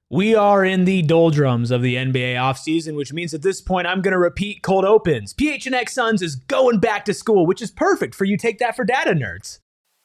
We are in the doldrums of the NBA offseason, which means at this point I'm going to repeat cold opens. PHNX Suns is going back to school, which is perfect for you take that for data nerds.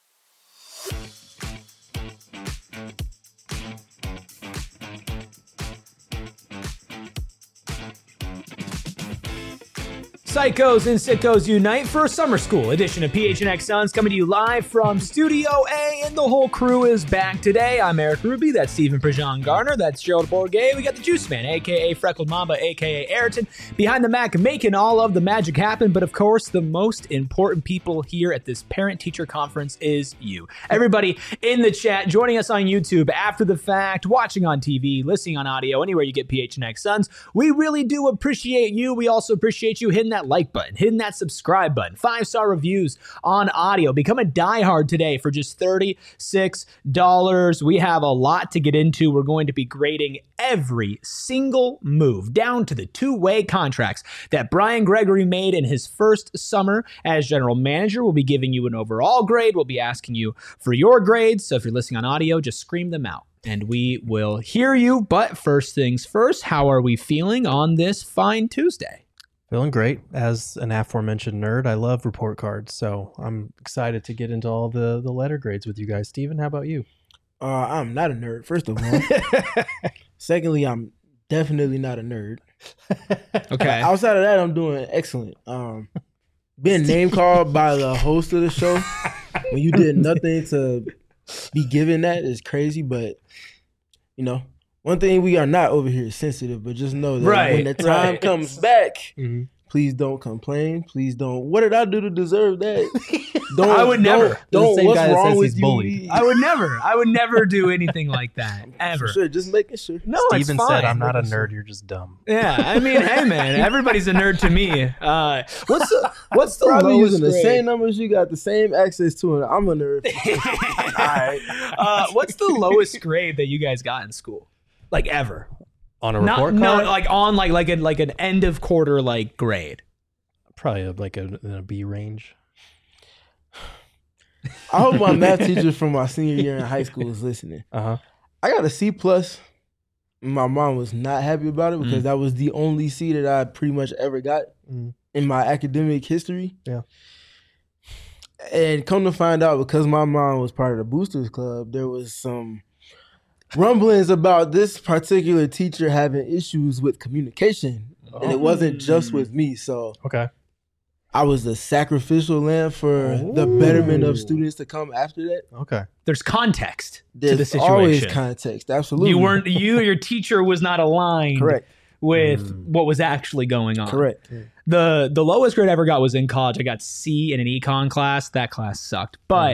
Psychos and Sickos unite for a summer school edition of PHNX Suns, coming to you live from Studio A, and the whole crew is back today. I'm Eric Ruby, that's Stephen Prejean Garner, that's Gerald Bourget, we got the Juice Man, a.k.a. Freckled Mamba, a.k.a. Ayrton, behind the Mac, making all of the magic happen, but of course, the most important people here at this parent-teacher conference is you. Everybody in the chat, joining us on YouTube after the fact, watching on TV, listening on audio, anywhere you get PHNX Suns, we really do appreciate you. We also appreciate you hitting that like button, hitting that subscribe button, 5-star reviews on audio. Become a diehard today for just $36. We have a lot to get into. We're going to be grading every single move down to the two-way contracts that Brian Gregory made in his first summer as general manager. We'll be giving you an overall grade. We'll be asking you for your grades. So if you're listening on audio, just scream them out and we will hear you. But first things first, how are we feeling on this fine Tuesday? Feeling great. As an aforementioned nerd, I love report cards, so I'm excited to get into all the letter grades with you guys. Steven, how about you? I'm not a nerd, first of all. Secondly, I'm definitely not a nerd. Okay. Outside of that, I'm doing excellent. Being name called by the host of the show when you did nothing to be given that is crazy, but, you know, one thing we are not over here is sensitive, but just know that when the time comes back, please don't complain. Please don't. What did I do to deserve that? I would never. Don't. What's wrong with you? I would never do anything like that ever. For sure, just making sure. No, Steven it's fine. said, "I'm not a nerd. You're just dumb." Yeah, I mean, hey man, everybody's a nerd to me. What's the Probably lowest using the grade? same numbers you got, the same access to it. I'm a nerd. All right. What's the lowest grade that you guys got in school, like ever? On a report card? No, like on like an end of quarter like grade. Probably like in a B range. I hope my math teacher from my senior year in high school is listening. Uh-huh. I got a C plus. My mom was not happy about it because that was the only C that I pretty much ever got in my academic history. Yeah. And come to find out, because my mom was part of the Boosters Club, there was some rumblings about this particular teacher having issues with communication. And it wasn't just with me. So Okay. I was a sacrificial lamb for the betterment of students to come after that. Okay. There's context There's to the situation. always context. Absolutely. Your teacher was not aligned Correct. with what was actually going on. Correct. The lowest grade I ever got was in college. I got C in an econ class. That class sucked. But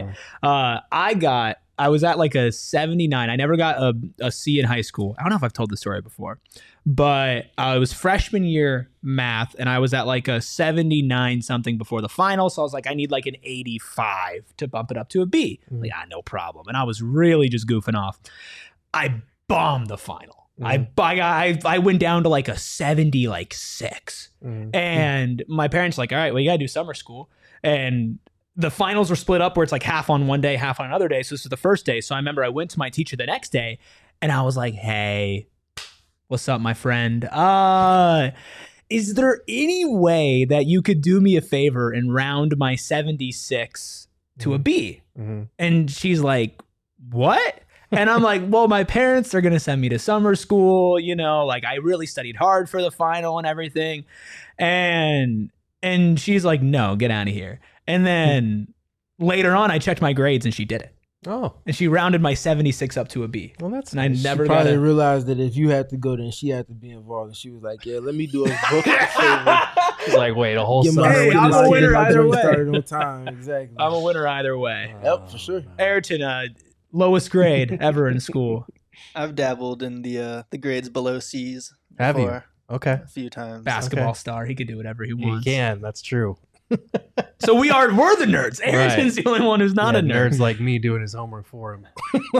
I was at like a 79. I never got a C in high school. I don't know if I've told this story before, but it was freshman year math, and I was at like a 79 something before the final. So I was like, I need like an 85 to bump it up to a B. Like, no problem. And I was really just goofing off. I bombed the final. I went down to like a 76. And my parents were like, all right, well, you got to do summer school. And the finals were split up where it's like half on one day, half on another day. So this was the first day. So I remember I went to my teacher the next day and I was like, hey, what's up, my friend? Is there any way that you could do me a favor and round my 76 to a B? And she's like, what? And I'm like, well, my parents are going to send me to summer school. You know, like I really studied hard for the final and everything. And she's like, no, get out of here. And then later on, I checked my grades and she did it. Oh. And she rounded my 76 up to a B. Well, that's and I nice. never She got probably it. realized that if you had to go, then she had to be involved. And she was like, yeah, let me do a book a favor. She's like, wait, a whole Get my summer. Hey, with I'm this a kid. winner either way. Started on time. Exactly. I'm a winner either way. Yep, for sure. Ayrton, lowest grade ever in school. I've dabbled in the grades below C's Have you? before Okay. a few times. Basketball Okay. star. He could do whatever he You wants. can. That's true. So we're the nerds. Ayrton's the only one who's not a nerd. Nerds like me doing his homework for him.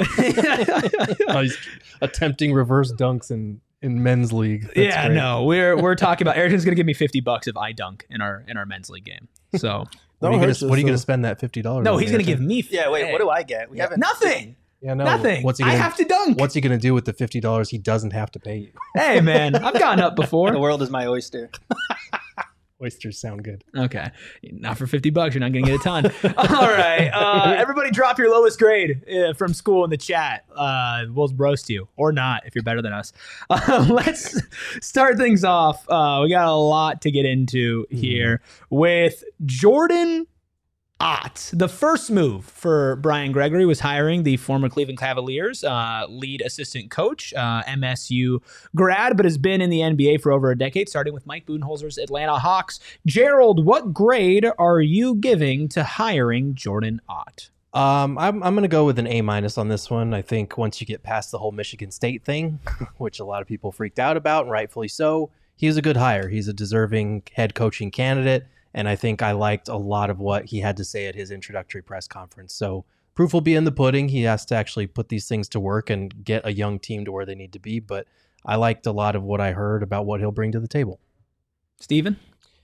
He's attempting reverse dunks in men's league. That's Yeah, great. no, we're talking about Ayrton's gonna give me $50 if I dunk in our men's league game. So What are you Don't gonna hurt what are you gonna yourself. spend that $50? no, on, he's gonna Ayrton? give me Yeah, wait, what do I get? We haven't nothing. Yeah, no. Nothing. What's he I gonna, have to dunk. What's he going to do with the $50 he doesn't have to pay you? Hey, man, I've gotten up The before. world is my oyster. Oysters sound good. Okay. Not for $50. You're not going to get a ton. All right. Everybody drop your lowest grade from school in the chat. We'll roast you or not if you're better than us. Let's start things off. We got a lot to get into here with Jordan Ott. The first move for Brian Gregory was hiring the former Cleveland Cavaliers lead assistant coach, MSU grad, but has been in the NBA for over a decade, starting with Mike Budenholzer's Atlanta Hawks. Gerald, what grade are you giving to hiring Jordan Ott? I'm going to go with an A- on this one. I think once you get past the whole Michigan State thing, which a lot of people freaked out about, and rightfully so, he's a good hire. He's a deserving head coaching candidate. And I think I liked a lot of what he had to say at his introductory press conference. So proof will be in the pudding. He has to actually put these things to work and get a young team to where they need to be. But I liked a lot of what I heard about what he'll bring to the table. Steven?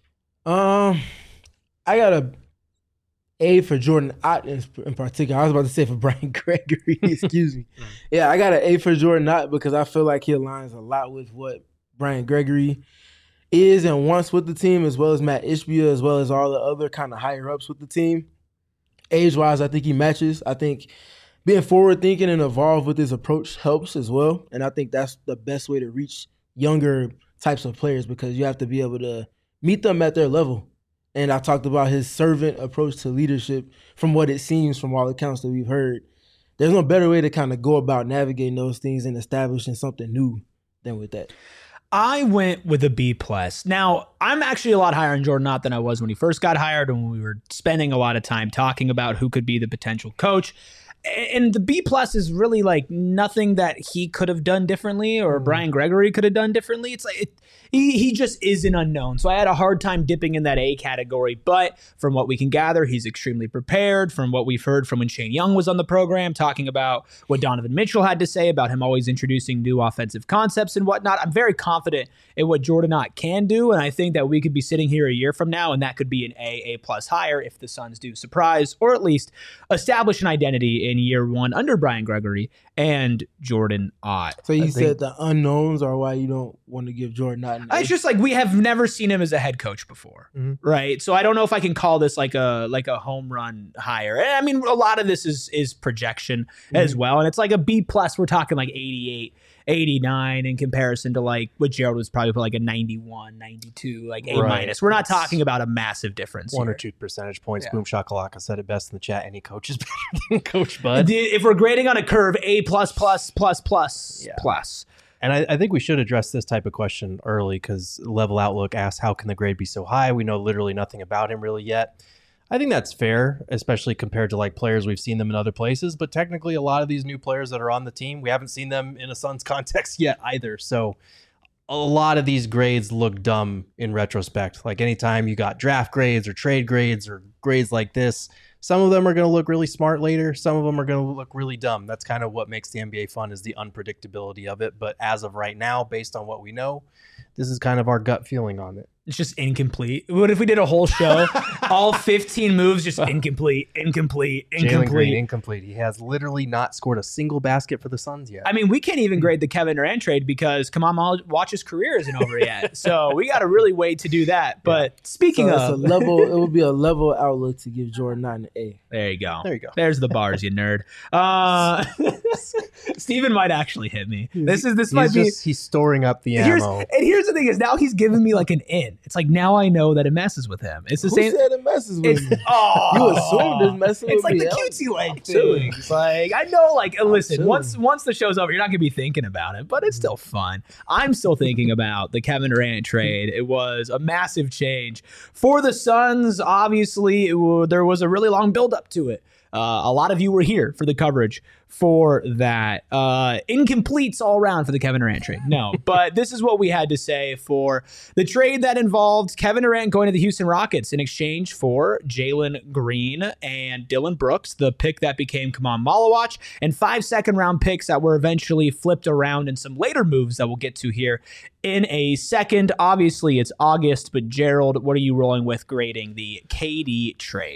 I got a A for Jordan Ott in particular. I was about to say for Brian Gregory. Excuse me. Yeah, I got an A for Jordan Ott because I feel like he aligns a lot with what Brian Gregory is and wants with the team, as well as Matt Ishbia, as well as all the other kind of higher ups with the team. Age-wise, I think he matches. I think being forward-thinking and evolve with his approach helps as well. And I think that's the best way to reach younger types of players because you have to be able to meet them at their level. And I talked about his servant approach to leadership from what it seems from all accounts that we've heard. There's no better way to kind of go about navigating those things and establishing something new than with that. I went with a B+. Now, I'm actually a lot higher on Jordan Ott than I was when he first got hired and when we were spending a lot of time talking about who could be the potential coach. And the B+ is really like nothing that he could have done differently or Brian Gregory could have done differently. It's like he just is an unknown. So I had a hard time dipping in that A category. But from what we can gather, he's extremely prepared. From what we've heard from when Shane Young was on the program, talking about what Donovan Mitchell had to say about him always introducing new offensive concepts and whatnot. I'm very confident in what Jordan Ott can do. And I think that we could be sitting here a year from now and that could be an A+ higher if the Suns do surprise or at least establish an identity in year one under Brian Gregory and Jordan Ott. So you said the unknowns are why you don't want to give Jordan Ott an A? It's just like we have never seen him as a head coach before, right? So I don't know if I can call this like a home run hire. And I mean, a lot of this is projection as well. And it's like a B+, we're talking like 88, 89 in comparison to like what Gerald was probably put like a 91, 92, like A-. Right. We're not talking about a massive difference. One here. or 2 percentage points. Yeah. Boom Shakalaka said it best in the chat. Any coach is better than Coach Bud. If we're grading on a curve, A++++++. And I think we should address this type of question early because Level Outlook asked, how can the grade be so high? We know literally nothing about him really yet. I think that's fair, especially compared to like players we've seen them in other places. But technically, a lot of these new players that are on the team, we haven't seen them in a Suns context yet either. So a lot of these grades look dumb in retrospect. Like anytime you got draft grades or trade grades or grades like this, some of them are going to look really smart later. Some of them are going to look really dumb. That's kind of what makes the NBA fun is the unpredictability of it. But as of right now, based on what we know, this is kind of our gut feeling on it. It's just incomplete. What if we did a whole show, all 15 moves, just incomplete. Jalen Green, incomplete. He has literally not scored a single basket for the Suns yet. I mean, we can't even grade the Kevin Durant trade because Kamal Watch's career isn't over yet. So we got to really wait to do that. But speaking So of, it would be a level outlook to give Jordan Ott an A. there you go. There you go. There's the bars, you nerd. Steven might actually hit me. This might be. He's storing up the Here's, ammo. and here's the thing is now he's giving me like an in. It's like now I know that it messes with him. It's the Who same. said it messes with It's me? oh, You assumed it's messing It's with like me. the I'm cutesy leg chilling. thing. It's like I know, like listen, chilling. once the show's over, you're not gonna be thinking about it, but it's still fun. I'm still thinking about the Kevin Durant trade. It was a massive change for the Suns. Obviously, there was a really long build up to it. A lot of you were here for the coverage for that. Incompletes all around for the Kevin Durant trade. No, but this is what we had to say for the trade that involved Kevin Durant going to the Houston Rockets in exchange for Jalen Green and Dylan Brooks, the pick that became Kamal Malawach, and 5 second-round picks that were eventually flipped around in some later moves that we'll get to here in a second. Obviously, it's August, but Gerald, what are you rolling with grading the KD trade?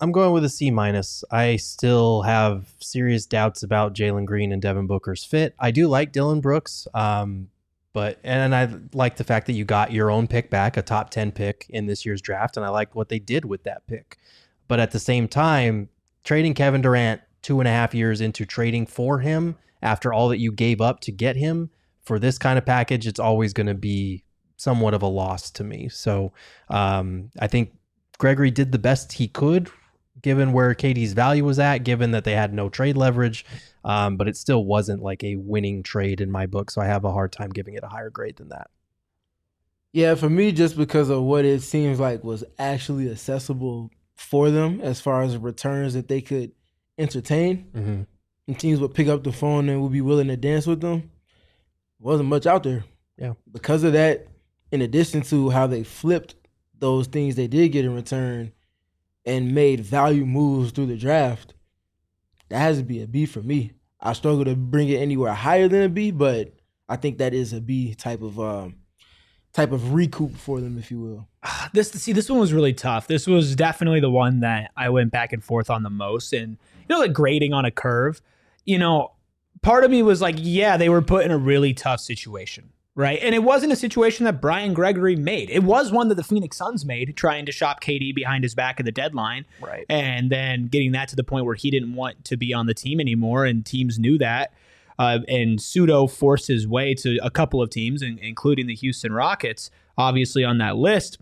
I'm going with a C minus. I still have serious doubts about Jalen Green and Devin Booker's fit. I do like Dylan Brooks, and I like the fact that you got your own pick back, a top 10 pick in this year's draft, and I like what they did with that pick. But at the same time, trading Kevin Durant 2.5 years into trading for him after all that you gave up to get him for this kind of package, it's always going to be somewhat of a loss to me. So I think Gregory did the best he could given where KD's value was at, given that they had no trade leverage, but it still wasn't like a winning trade in my book, so I have a hard time giving it a higher grade than that. Yeah, for me, just because of what it seems like was actually accessible for them as far as returns that they could entertain, and teams would pick up the phone and would be willing to dance with them, wasn't much out there. Yeah. Because of that, in addition to how they flipped those things they did get in return and made value moves through the draft, that has to be a B for me. I struggle to bring it anywhere higher than a B, but I think that is a B type of recoup for them, if you will. This one was really tough. This was definitely the one that I went back and forth on the most. And, like grading on a curve, part of me was like, yeah, they were put in a really tough situation, right? And it wasn't a situation that Brian Gregory made. It was one that the Phoenix Suns made, trying to shop KD behind his back at the deadline. Right. And then getting that to the point where he didn't want to be on the team anymore, and teams knew that. And pseudo forced his way to a couple of teams, including the Houston Rockets, obviously on that list.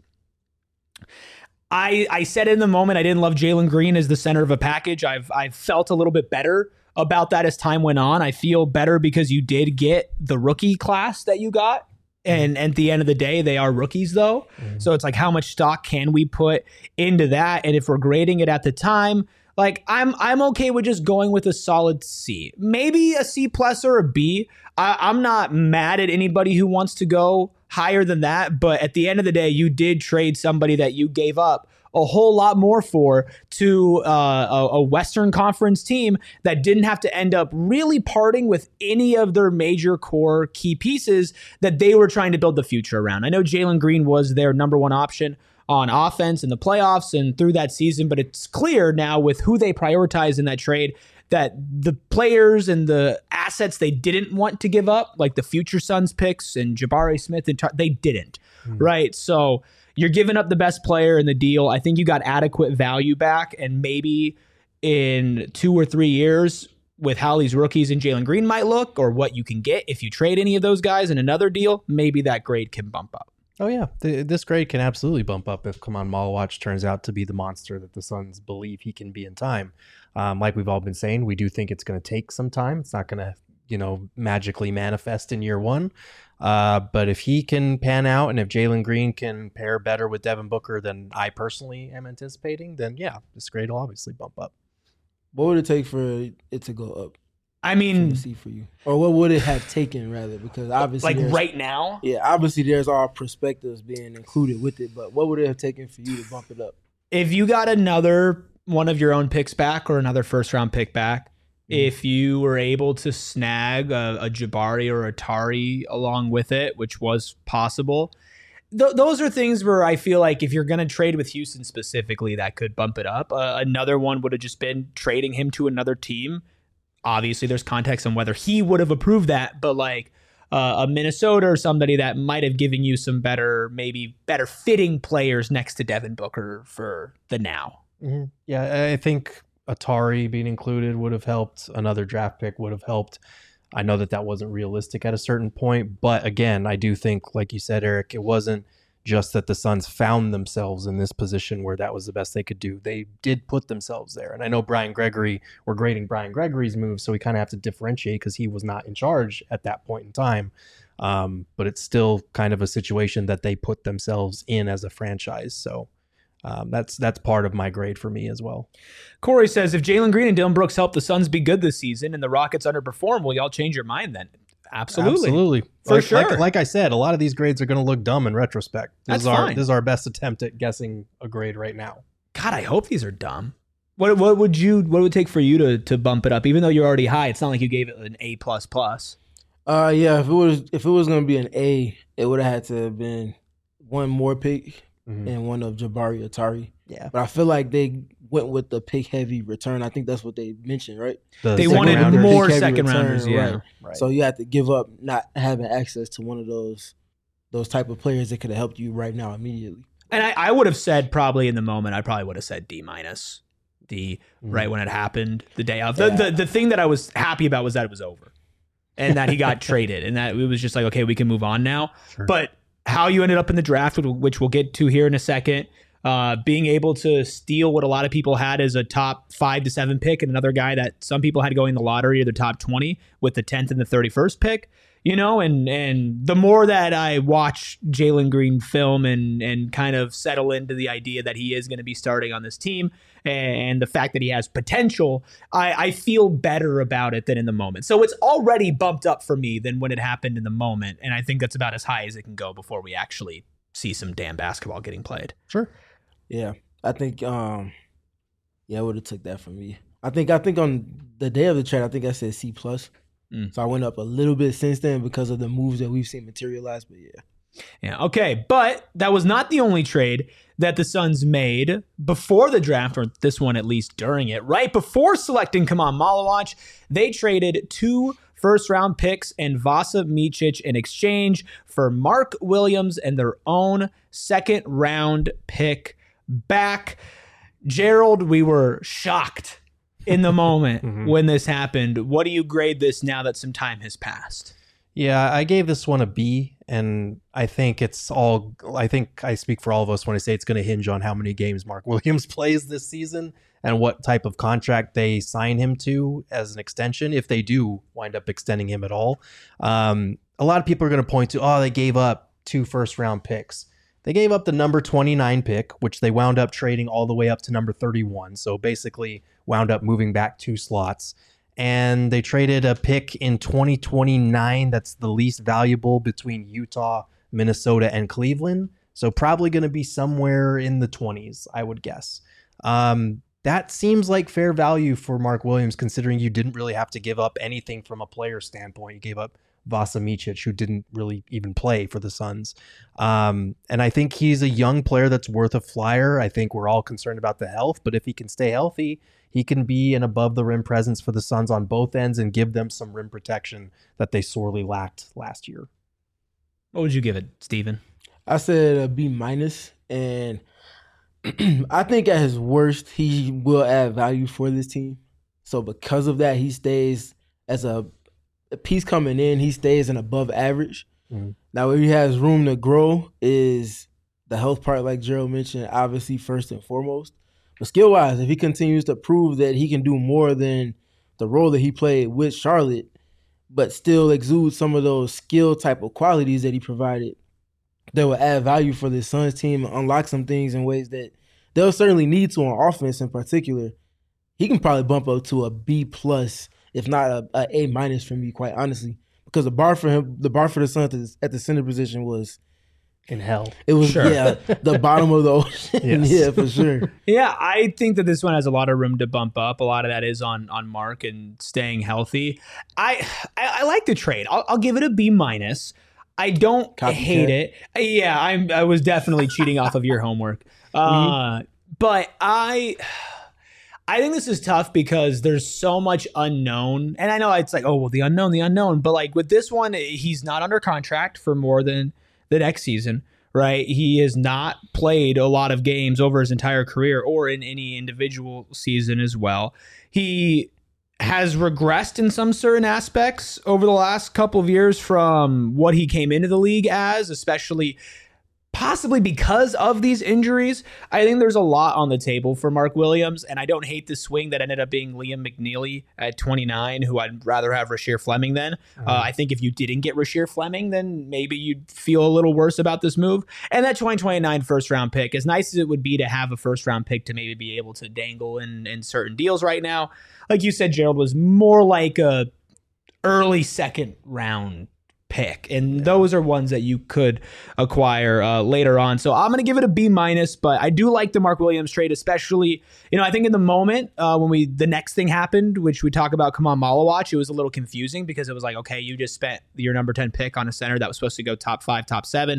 I said in the moment I didn't love Jalen Green as the center of a package. I've felt a little bit better about that as time went on. I feel better because you did get the rookie class that you got. And at the end of the day, they are rookies, though. So it's like, how much stock can we put into that? And if we're grading it at the time, like I'm okay with just going with a solid C, maybe a C plus or a B. I'm not mad at anybody who wants to go higher than that. But at the end of the day, you did trade somebody that you gave up a whole lot more for to a Western Conference team that didn't have to end up really parting with any of their major core key pieces that they were trying to build the future around. I know Jalen Green was their number one option on offense in the playoffs and through that season, but it's clear now with who they prioritize in that trade that the players and the assets they didn't want to give up, like the future Suns picks and Jabari Smith, they didn't, right? So you're giving up the best player in the deal. I think you got adequate value back, and maybe in 2 or 3 years with how these rookies and Jalen Green might look, or what you can get if you trade any of those guys in another deal, maybe that grade can bump up. Oh, yeah. This grade can absolutely bump up if Kaman Malawach turns out to be the monster that the Suns believe he can be in time. Like we've all been saying, we do think it's going to take some time. It's not going to, magically manifest in year one. But if he can pan out and if Jalen Green can pair better with Devin Booker than I personally am anticipating, then, yeah, this grade will obviously bump up. What would it take for it to go up? I mean, C for you, or what would it have taken rather? Because obviously, like right now, yeah, obviously there's all perspectives being included with it. But what would it have taken for you to bump it up? If you got another one of your own picks back or another first round pick back, if you were able to snag a Jabari or a Tari along with it, which was possible, those are things where I feel like if you're going to trade with Houston specifically, that could bump it up. Another one would have just been trading him to another team. Obviously, there's context on whether he would have approved that, but like a Minnesota or somebody that might have given you some maybe better fitting players next to Devin Booker for the now. Mm-hmm. Yeah, I think Atari being included would have helped. Another draft pick would have helped. I know that wasn't realistic at a certain point, but again, I do think, like you said, Eric, it wasn't just that the Suns found themselves in this position where that was the best they could do. They did put themselves there. And I know we're grading Brian Gregory's move, so we kind of have to differentiate because he was not in charge at that point in time. But it's still kind of a situation that they put themselves in as a franchise. So that's part of my grade for me as well. Corey says, if Jalen Green and Dylan Brooks help the Suns be good this season and the Rockets underperform, will y'all change your mind then? Absolutely. For sure. Like I said, a lot of these grades are going to look dumb in retrospect. That's fine. This is our best attempt at guessing a grade right now. God, I hope these are dumb. What would it take for you to bump it up? Even though you're already high, it's not like you gave it an A++. Yeah, if it was going to be an A, it would have had to have been one more pick and one of Jabari Atari. Yeah. But I feel like they went with the pick heavy return. I think that's what they mentioned, right? They second wanted rounders. more Pick heavy second return, rounders. Yeah. Right. So you have to give up not having access to one of those type of players that could have helped you right now immediately. And I would have said probably in the moment, I probably would have said D-, right when it happened, the day of. The thing that I was happy about was that it was over and that he got traded and that it was just like, okay, we can move on now. Sure. But how you ended up in the draft, which we'll get to here in a second, being able to steal what a lot of people had as a top 5 to 7 pick and another guy that some people had going in the lottery or the top 20 with the 10th and the 31st pick. And the more that I watch Jalen Green film and kind of settle into the idea that he is going to be starting on this team and the fact that he has potential, I feel better about it than in the moment. So it's already bumped up for me than when it happened in the moment. And I think that's about as high as it can go before we actually see some damn basketball getting played. Sure. Yeah, I think I would have took that from me. I think on the day of the trade, I think I said C+. So I went up a little bit since then because of the moves that we've seen materialize. But Yeah. Okay. But that was not the only trade that the Suns made before the draft, or this one at least during it. Right before selecting Kaman Malawach, they traded 2 first-round picks and Vasa Micic in exchange for Mark Williams and their own second-round pick back. Gerald, we were shocked in the moment when this happened. What do you grade this now that some time has passed? Yeah, I gave this one a B, and I think I speak for all of us when I say it's going to hinge on how many games Mark Williams plays this season and what type of contract they sign him to as an extension, if they do wind up extending him at all. A lot of people are going to point to, they gave up 2 first-round picks. They gave up the number 29 pick, which they wound up trading all the way up to number 31. So basically wound up moving back 2 slots. And they traded a pick in 2029 that's the least valuable between Utah, Minnesota, and Cleveland. So probably going to be somewhere in the 20s, I would guess. That seems like fair value for Mark Williams, considering you didn't really have to give up anything from a player standpoint. You gave up Vasa Micic, who didn't really even play for the Suns. And I think he's a young player that's worth a flyer. I think we're all concerned about the health, but if he can stay healthy, he can be an above-the-rim presence for the Suns on both ends and give them some rim protection that they sorely lacked last year. What would you give it, Steven? I said a B-, and I think at his worst, he will add value for this team. So because of that, he stays as a piece coming in, he stays an above average. Now, where he has room to grow is the health part, like Gerald mentioned, obviously first and foremost. But skill-wise, if he continues to prove that he can do more than the role that he played with Charlotte, but still exude some of those skill type of qualities that he provided, that will add value for the Suns team and unlock some things in ways that they'll certainly need to on offense in particular. He can probably bump up to a B+, if not a A- for me, quite honestly, because the bar for the Suns at the center position was in hell. It was the bottom of the ocean. Yes. Yeah, for sure. Yeah, I think that this one has a lot of room to bump up. A lot of that is on Mark and staying healthy. I like the trade. I'll give it a B-. I don't hate it. Yeah, I was definitely cheating off of your homework. But I think this is tough because there's so much unknown. And I know it's like, the unknown. But like with this one, he's not under contract for more than the next season, right? He has not played a lot of games over his entire career or in any individual season as well. He has regressed in some certain aspects over the last couple of years from what he came into the league as, especially possibly because of these injuries. I think there's a lot on the table for Mark Williams, and I don't hate the swing that ended up being Liam McNeely at 29, who I'd rather have Rasheer Fleming than. I think if you didn't get Rasheer Fleming, then maybe you'd feel a little worse about this move. And that 2029 first-round pick, as nice as it would be to have a first-round pick to maybe be able to dangle in certain deals right now, like you said, Gerald, was more like a early second-round pick, and those are ones that you could acquire later on. So I'm going to give it a B-, but I do like the Mark Williams trade, especially, I think in the moment when the next thing happened, which we talk about Kaman Malawach, it was a little confusing because it was like, okay, you just spent your number 10 pick on a center that was supposed to go top 5, top 7.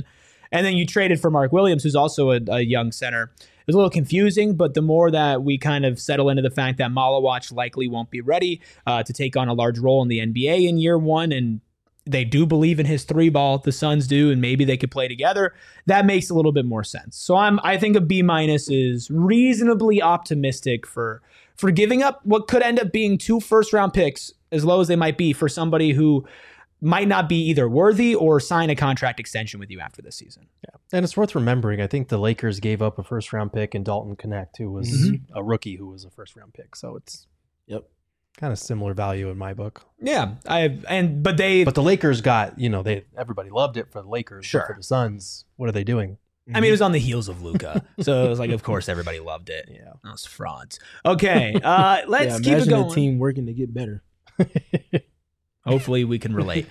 And then you traded for Mark Williams, who's also a young center. It was a little confusing, but the more that we kind of settle into the fact that Malawach likely won't be ready to take on a large role in the NBA in year one, and they do believe in his three ball, the Suns do, and maybe they could play together, that makes a little bit more sense. So I think a B- is reasonably optimistic for giving up what could end up being 2 first-round picks, as low as they might be, for somebody who might not be either worthy or sign a contract extension with you after this season. Yeah. And it's worth remembering, I think the Lakers gave up a first-round pick in Dalton Connect, who was a rookie who was a first-round pick. So it's kind of similar value in my book. Yeah. But the Lakers got, everybody loved it for the Lakers. Sure. But for the Suns, what are they doing? I mean, it was on the heels of Luka. So it was like, of course, everybody loved it. Yeah. Those frauds. Okay. Let's keep it going. The team working to get better. Hopefully we can relate.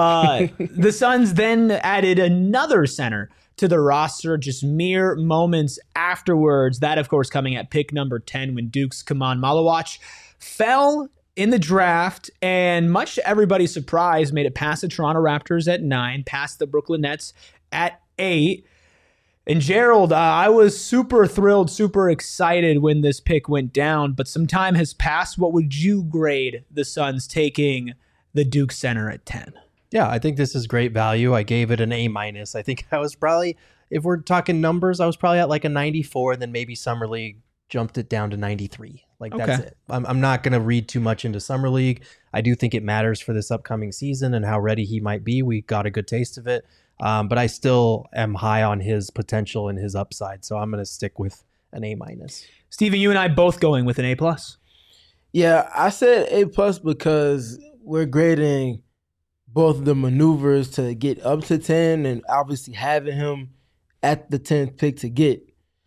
The Suns then added another center to the roster just mere moments afterwards. That, of course, coming at pick number 10 when Duke's Kaman Malawach fell in the draft, and much to everybody's surprise, made it past the Toronto Raptors at 9, past the Brooklyn Nets at 8. And Gerald, I was super thrilled, super excited when this pick went down, but some time has passed. What would you grade the Suns taking the Duke center at 10? Yeah, I think this is great value. I gave it an A-. I think I was probably, if we're talking numbers, I was probably at like a 94, and then maybe Summer League jumped it down to 93. That's it. I'm not going to read too much into Summer League. I do think it matters for this upcoming season and how ready he might be. We got a good taste of it. But I still am high on his potential and his upside. So I'm going to stick with an A-. Steven, you and I both going with an A+. Yeah, I said A+ because we're grading both the maneuvers to get up to 10 and obviously having him at the 10th pick to get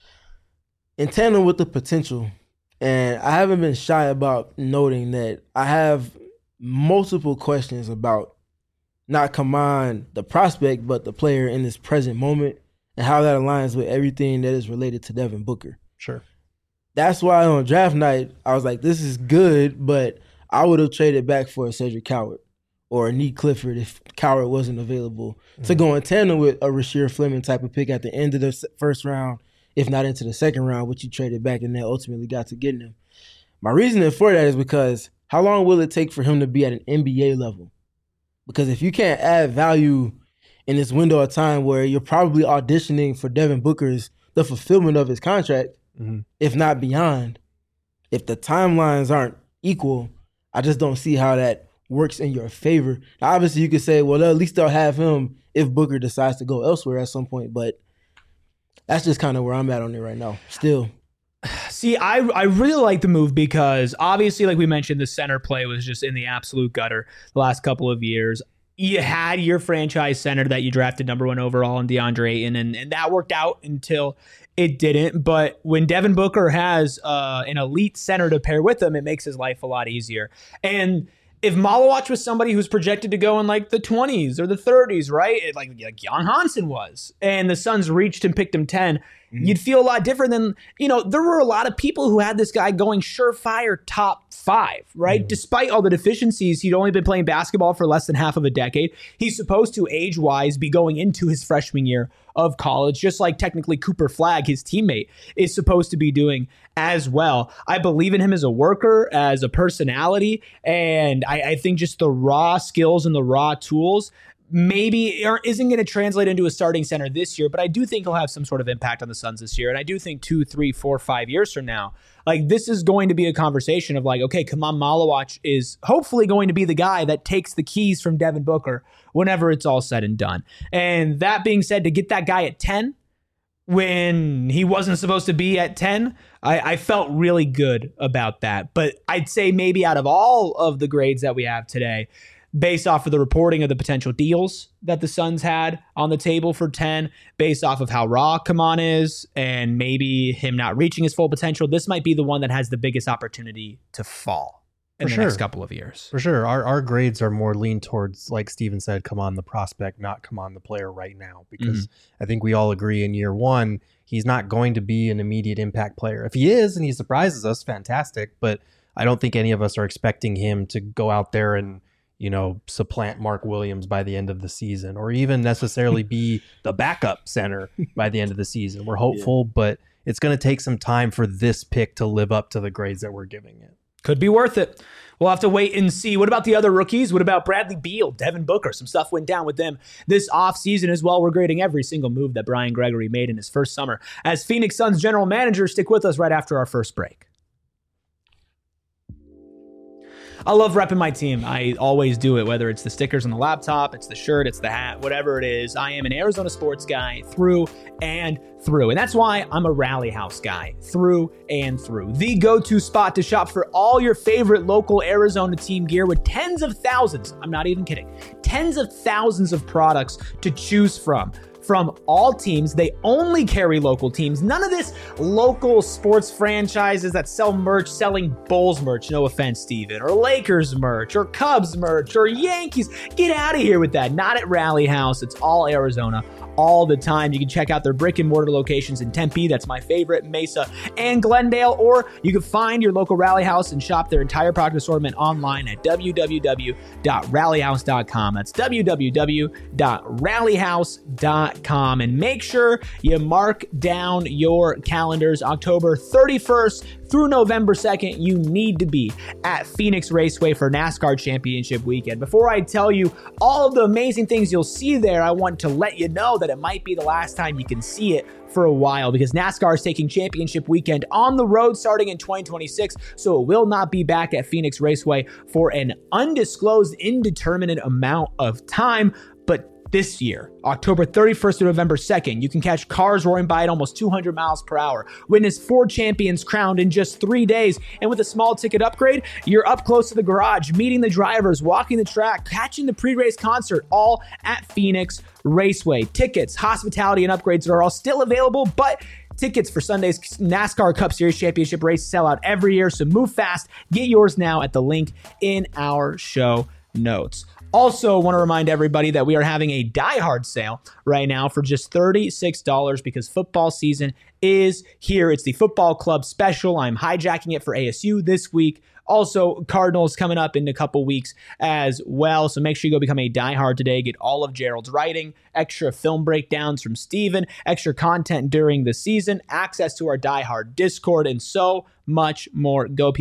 in tandem with the potential. And I haven't been shy about noting that I have multiple questions about not Kaman, the prospect, but the player in this present moment and how that aligns with everything that is related to Devin Booker. Sure. That's why on draft night, I was like, this is good, but I would have traded back for a Cedric Coward or a Nick Clifford if Coward wasn't available to go in tandem with a Rasheer Fleming type of pick at the end of the first round, if not into the second round, which you traded back and then ultimately got to getting him. My reasoning for that is because how long will it take for him to be at an NBA level? Because if you can't add value in this window of time where you're probably auditioning for Devin Booker's, the fulfillment of his contract, if not beyond, if the timelines aren't equal, I just don't see how that works in your favor. Now, obviously, you could say, well, at least they'll have him if Booker decides to go elsewhere at some point, but that's just kind of where I'm at on it right now, still. See, I really like the move because obviously, like we mentioned, the center play was just in the absolute gutter the last couple of years. You had your franchise center that you drafted number 1 overall in DeAndre Ayton, and that worked out until it didn't. But when Devin Booker has an elite center to pair with him, it makes his life a lot easier. And if Malawach was somebody who's projected to go in like the 20s or the 30s, right? Like Jan Hansen was, and the Suns reached and picked him 10, you'd feel a lot different than, there were a lot of people who had this guy going surefire top 5, right? Despite all the deficiencies, he'd only been playing basketball for less than half of a decade. He's supposed to, age-wise, be going into his freshman year of college, just like technically Cooper Flagg, his teammate, is supposed to be doing as well. I believe in him as a worker, as a personality, and I think just the raw skills and the raw tools maybe isn't going to translate into a starting center this year, but I do think he'll have some sort of impact on the Suns this year. And I do think 2, 3, 4, 5 years from now, like this is going to be a conversation of like, okay, Kaman Malawach is hopefully going to be the guy that takes the keys from Devin Booker whenever it's all said and done. And that being said, to get that guy at 10 when he wasn't supposed to be at 10, I felt really good about that. But I'd say maybe out of all of the grades that we have today, based off of the reporting of the potential deals that the Suns had on the table for 10, based off of how raw Kaman is, and maybe him not reaching his full potential, this might be the one that has the biggest opportunity to fall in the next couple of years. For sure. Our grades are more lean towards, like Steven said, Kaman the prospect, not Kaman the player right now, because I think we all agree in year 1, he's not going to be an immediate impact player. If he is and he surprises us, fantastic, but I don't think any of us are expecting him to go out there and supplant Mark Williams by the end of the season, or even necessarily be the backup center by the end of the season. We're hopeful, but it's going to take some time for this pick to live up to the grades that we're giving it. Could be worth it. We'll have to wait and see. What about the other rookies? What about Bradley Beal, Devin Booker? Some stuff went down with them this offseason as well. We're grading every single move that Brian Gregory made in his first summer as Phoenix Suns general manager. Stick with us right after our first break. I love repping my team. I always do it, whether it's the stickers on the laptop, it's the shirt, it's the hat, whatever it is. I am an Arizona sports guy through and through. And that's why I'm a Rally House guy through and through. The go-to spot to shop for all your favorite local Arizona team gear with tens of thousands, I'm not even kidding, tens of thousands of products to choose from. From all teams, they only carry local teams. None of this local sports franchises that sell merch selling Bulls merch, no offense, Steven, or Lakers merch, or Cubs merch, or Yankees. Get out of here with that. Not at Rally House. It's all Arizona all the time. You can check out their brick and mortar locations in Tempe, that's my favorite, Mesa, and Glendale, or you can find your local Rally House and shop their entire product assortment online at www.rallyhouse.com. That's www.rallyhouse.com. And make sure you mark down your calendars. October 31st through November 2nd, you need to be at Phoenix Raceway for NASCAR Championship Weekend. Before I tell you all of the amazing things you'll see there, I want to let you know that it might be the last time you can see it for a while, because NASCAR is taking Championship Weekend on the road starting in 2026, so it will not be back at Phoenix Raceway for an undisclosed, indeterminate amount of time. But this year, October 31st to November 2nd, you can catch cars roaring by at almost 200 miles per hour, witness 4 champions crowned in just 3 days, and with a small ticket upgrade, you're up close to the garage, meeting the drivers, walking the track, catching the pre-race concert, all at Phoenix Raceway. Tickets, hospitality, and upgrades are all still available, but tickets for Sunday's NASCAR Cup Series Championship race sell out every year, so move fast. Get yours now at the link in our show notes. Also, want to remind everybody that we are having a Die Hard sale right now for just $36 because football season is here. It's the Football Club Special. I'm hijacking it for ASU this week. Also, Cardinals coming up in a couple weeks as well. So make sure you go become a Die Hard today. Get all of Gerald's writing, extra film breakdowns from Steven, extra content during the season, access to our Die Hard Discord, and so much more. Go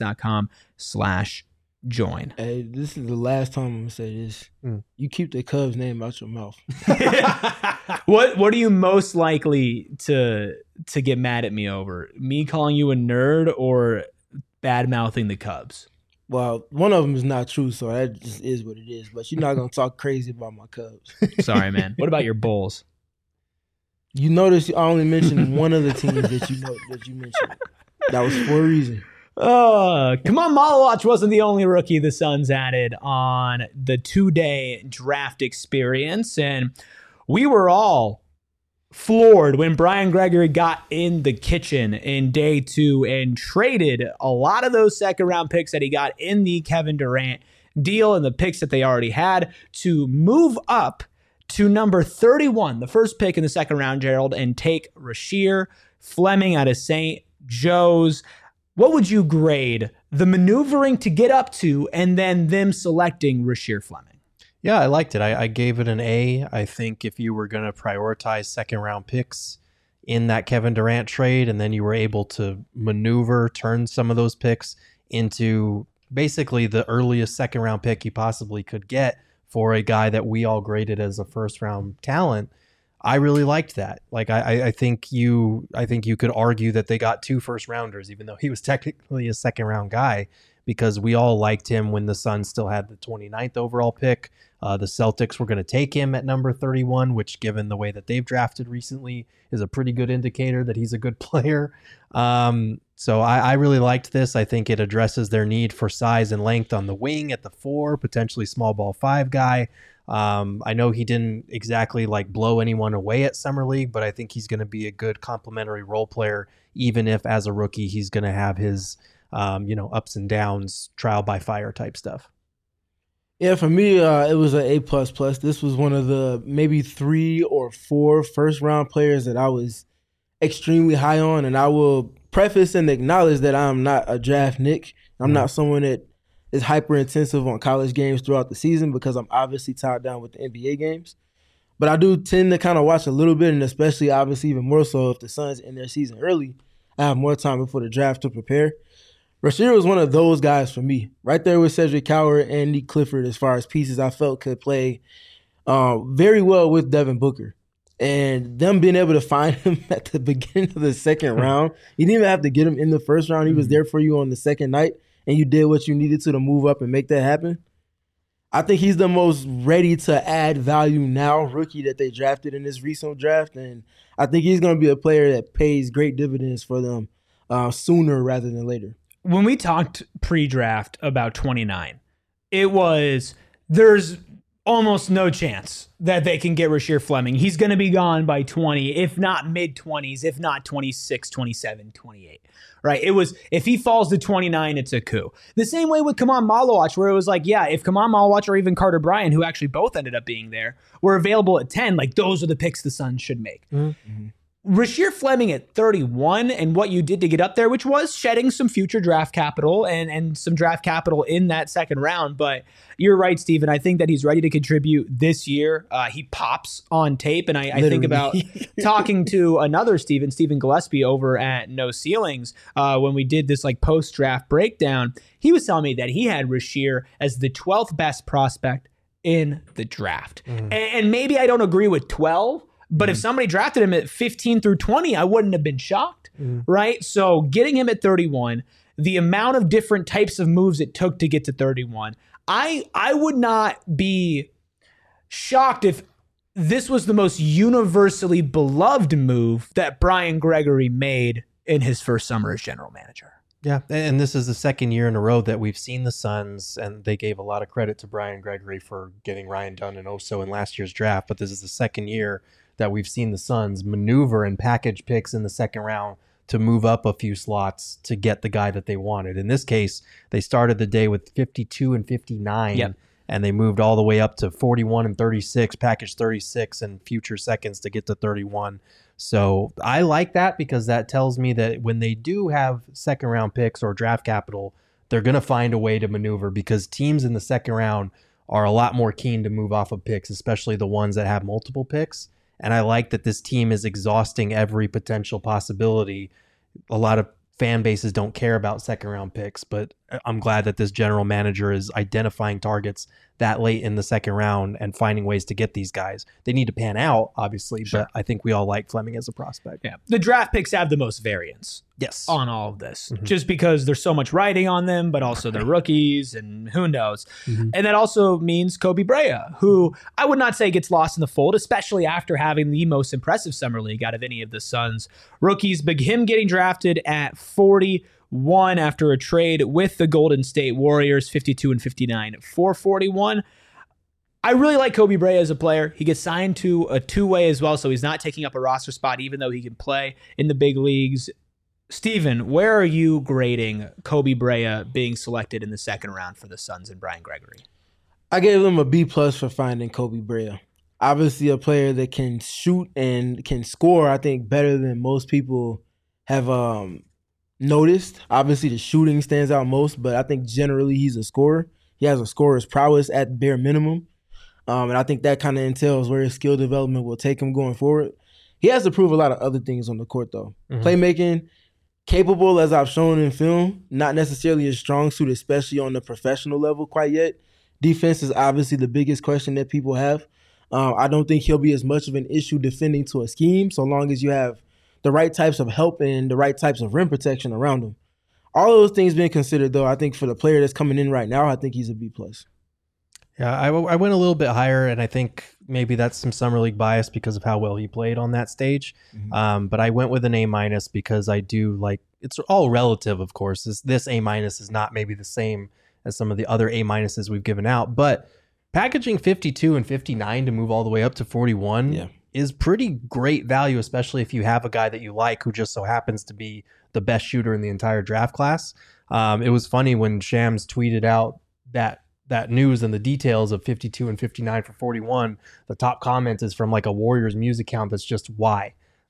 phnx.com/join. Hey, this is the last time I'm gonna say this. You keep the Cubs name out your mouth. What are you most likely to get mad at me over? Me calling you a nerd or bad mouthing the Cubs? Well, one of them is not true, so that just is what it is. But you're not gonna talk crazy about my Cubs. Sorry, man. What about your Bulls? You notice I only mentioned one of the teams that you mentioned. That was for a reason. Kamon Malawach wasn't the only rookie the Suns added on the 2-day draft experience, and we were all floored when Brian Gregory got in the kitchen in day 2 and traded a lot of those second-round picks that he got in the Kevin Durant deal and the picks that they already had to move up to number 31, the first pick in the second round, Gerald, and take Rasheer Fleming out of St. Joe's. What would you grade the maneuvering to get up to and then them selecting Rasheer Fleming? Yeah, I liked it. I gave it an A. I think if you were going to prioritize second round picks in that Kevin Durant trade, and then you were able to turn some of those picks into basically the earliest second round pick you possibly could get for a guy that we all graded as a first round talent, I really liked that. Like I think you could argue that they got 2 first rounders, even though he was technically a second round guy, because we all liked him when the Suns still had the 29th overall pick. The Celtics were going to take him at number 31, which, given the way that they've drafted recently, is a pretty good indicator that he's a good player. So I really liked this. I think it addresses their need for size and length on the wing at the 4, potentially small ball 5 guy. I know he didn't exactly blow anyone away at Summer League, but I think he's going to be a good complementary role player, even if as a rookie he's going to have his ups and downs, trial by fire type stuff. Yeah, for me, it was an A++. This was one of the maybe 3 or 4 first-round players that I was extremely high on, and I will preface and acknowledge that I'm not a draft Nick. I'm not someone that is hyper intensive on college games throughout the season because I'm obviously tied down with the NBA games. But I do tend to kind of watch a little bit, and especially obviously even more so if the Suns end their season early, I have more time before the draft to prepare. Rasheer was one of those guys for me, right there with Cedric Coward and Nick Clifford as far as pieces I felt could play very well with Devin Booker. And them being able to find him at the beginning of the second round, you didn't even have to get him in the first round. He was there for you on the second night, and you did what you needed to move up and make that happen. I think he's the most ready to add value now rookie that they drafted in this recent draft, and I think he's going to be a player that pays great dividends for them sooner rather than later. When we talked pre-draft about 29, it was there's almost no chance that they can get Rasheer Fleming. He's going to be gone by 20, if not mid-20s, if not 26, 27, 28. Right? It was, if he falls to 29, it's a coup. The same way with Kaman Malawach, where it was like, yeah, if Kaman Malawach or even Carter Bryant, who actually both ended up being there, were available at 10, like those are the picks the Suns should make. Mm-hmm. Rasheer Fleming at 31 and what you did to get up there, which was shedding some future draft capital and some draft capital in that second round. But you're right, Steven. I think that he's ready to contribute this year. He pops on tape. And I think about talking to another Steven Gillespie over at No Ceilings when we did this like post-draft breakdown. He was telling me that he had Rasheer as the 12th best prospect in the draft. And maybe I don't agree with 12. But if somebody drafted him at 15 through 20, I wouldn't have been shocked, right? So getting him at 31, the amount of different types of moves it took to get to 31, I would not be shocked if this was the most universally beloved move that Brian Gregory made in his first summer as general manager. Yeah, and this is the second year in a row that we've seen the Suns, and they gave a lot of credit to Brian Gregory for getting Ryan Dunn and Oso in last year's draft, but this is the second year that we've seen the Suns maneuver and package picks in the second round to move up a few slots to get the guy that they wanted. In this case, they started the day with 52 and 59, and they moved all the way up to 41 and 36, package 36, and future seconds to get to 31. So I like that because that tells me that when they do have second round picks or draft capital, they're going to find a way to maneuver because teams in the second round are a lot more keen to move off of picks, especially the ones that have multiple picks. And I like that this team is exhausting every potential possibility. A lot of fan bases don't care about second round picks, but I'm glad that this general manager is identifying targets that late in the second round and finding ways to get these guys. They need to pan out, obviously, but I think we all like Fleming as a prospect. Yeah, the draft picks have the most variance. Yes, on all of this, just because there's so much writing on them, but also they're rookies and who knows. And that also means Kobe Brea, who I would not say gets lost in the fold, especially after having the most impressive summer league out of any of the Suns rookies. But him getting drafted at 41 after a trade with the Golden State Warriors, 52 and 59 for 41. I really like Kobe Brea as a player. He gets signed to a two-way as well, so he's not taking up a roster spot, even though he can play in the big leagues. Steven, where are you grading Kobe Brea being selected in the second round for the Suns and Brian Gregory? I gave them a B+ for finding Kobe Brea. Obviously a player that can shoot and can score, I think, better than most people have noticed. Obviously the shooting stands out most, but I think generally he's a scorer. He has a scorer's prowess at bare minimum. And I think that kind of entails where his skill development will take him going forward. He has to prove a lot of other things on the court, though. Playmaking, capable as I've shown in film, not necessarily a strong suit, especially on the professional level quite yet. Defense is obviously the biggest question that people have. I don't think he'll be as much of an issue defending to a scheme so long as you have the right types of help and the right types of rim protection around him. All those things being considered, though, I think for the player that's coming in right now, I think he's a B+. Yeah, I went a little bit higher, and I think maybe that's some summer league bias because of how well he played on that stage. But I went with an A- because I do like, it's all relative, of course. This A- is not maybe the same as some of the other A- we've given out, but packaging 52 and 59 to move all the way up to 41 is pretty great value, especially if you have a guy that you like who just so happens to be the best shooter in the entire draft class. It was funny when Shams tweeted out that news and the details of 52 and 59 for 41. The top comment is from like a Warriors music account that's just why.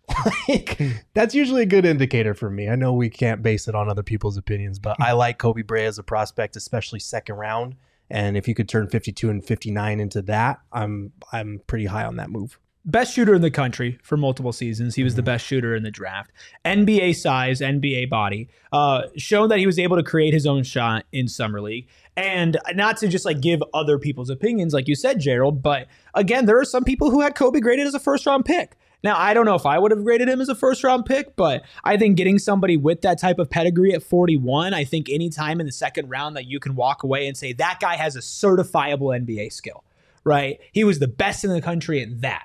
Like, that's usually a good indicator for me. I know we can't base it on other people's opinions, but I like Kobe Brea as a prospect, especially second round. And if you could turn 52 and 59 into that, I'm pretty high on that move. Best shooter in the country for multiple seasons. He was the best shooter in the draft. NBA size, NBA body. Shown that he was able to create his own shot in Summer League. And not to just like give other people's opinions, like you said, Gerald, but again, there are some people who had Kobe graded as a first-round pick. Now, I don't know if I would have graded him as a first-round pick, but I think getting somebody with that type of pedigree at 41, I think any time in the second round that you can walk away and say, that guy has a certifiable NBA skill, right? He was the best in the country at that.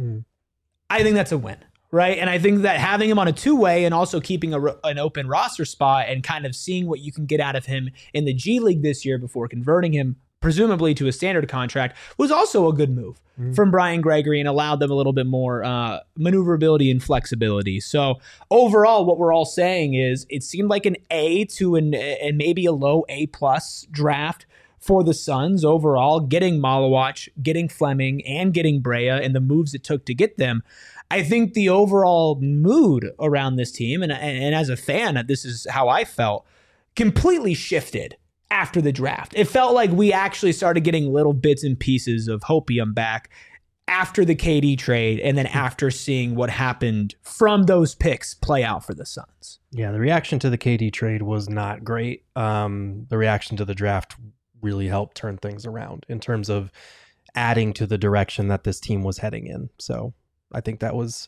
I think that's a win, right? And I think that having him on a two-way and also keeping an open roster spot and kind of seeing what you can get out of him in the G League this year before converting him presumably to a standard contract was also a good move from Brian Gregory and allowed them a little bit more maneuverability and flexibility. So overall, what we're all saying is it seemed like an A to and maybe a low A+ draft for the Suns overall, getting Malawach, getting Fleming, and getting Brea and the moves it took to get them. I think the overall mood around this team, and as a fan, this is how I felt, completely shifted after the draft. It felt like we actually started getting little bits and pieces of hopium back after the KD trade and then after seeing what happened from those picks play out for the Suns. Yeah, the reaction to the KD trade was not great. The reaction to the draft really helped turn things around in terms of adding to the direction that this team was heading in. So I think that was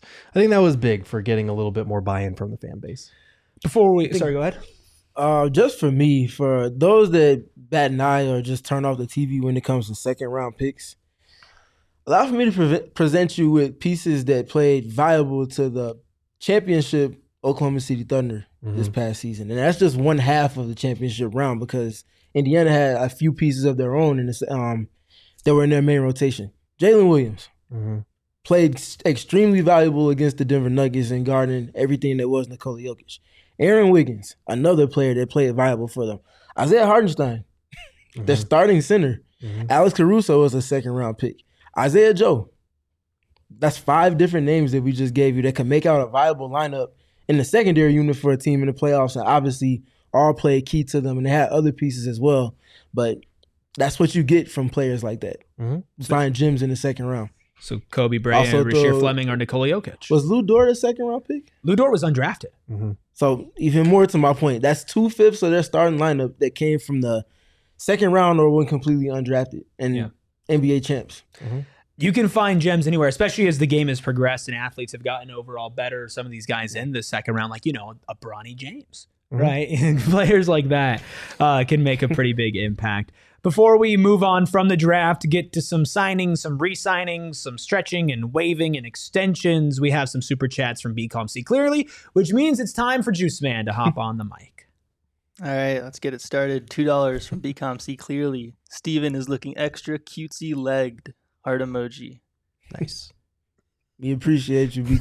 big for getting a little bit more buy-in from the fan base. Sorry, go ahead. Just for me, for those that bat an eye or just turn off the TV when it comes to second round picks, allow for me to present you with pieces that played viable to the championship Oklahoma City Thunder this past season. And that's just one half of the championship round because Indiana had a few pieces of their own that were in their main rotation. Jalen Williams played extremely valuable against the Denver Nuggets and guarding everything that was Nikola Jokic. Aaron Wiggins, another player that played viable for them. Isaiah Hartenstein, their starting center. Alex Caruso was a second-round pick. Isaiah Joe. That's 5 different names that we just gave you that can make out a viable lineup in the secondary unit for a team in the playoffs, and obviously all played key to them, and they had other pieces as well. But that's what you get from players like that. Find gems in the second round. So Kobe Brea, Rasheer Fleming, or Nikola Jokic. Was Lou Dort a second-round pick? Lou Dort was undrafted. So even more to my point, that's 2/5 of their starting lineup that came from the second round or went completely undrafted and NBA champs. You can find gems anywhere, especially as the game has progressed and athletes have gotten overall better. Some of these guys in the second round, like, a Bronny James, right? And players like that can make a pretty big impact. Before we move on from the draft, get to some signings, some re-signings, some stretching and waiving and extensions, we have some super chats from BCOM See Clearly, which means it's time for Juice Man to hop on the mic. All right, let's get it started. $2 from BCOM See Clearly. Steven is looking extra cutesy legged. Heart emoji. Nice. We appreciate you,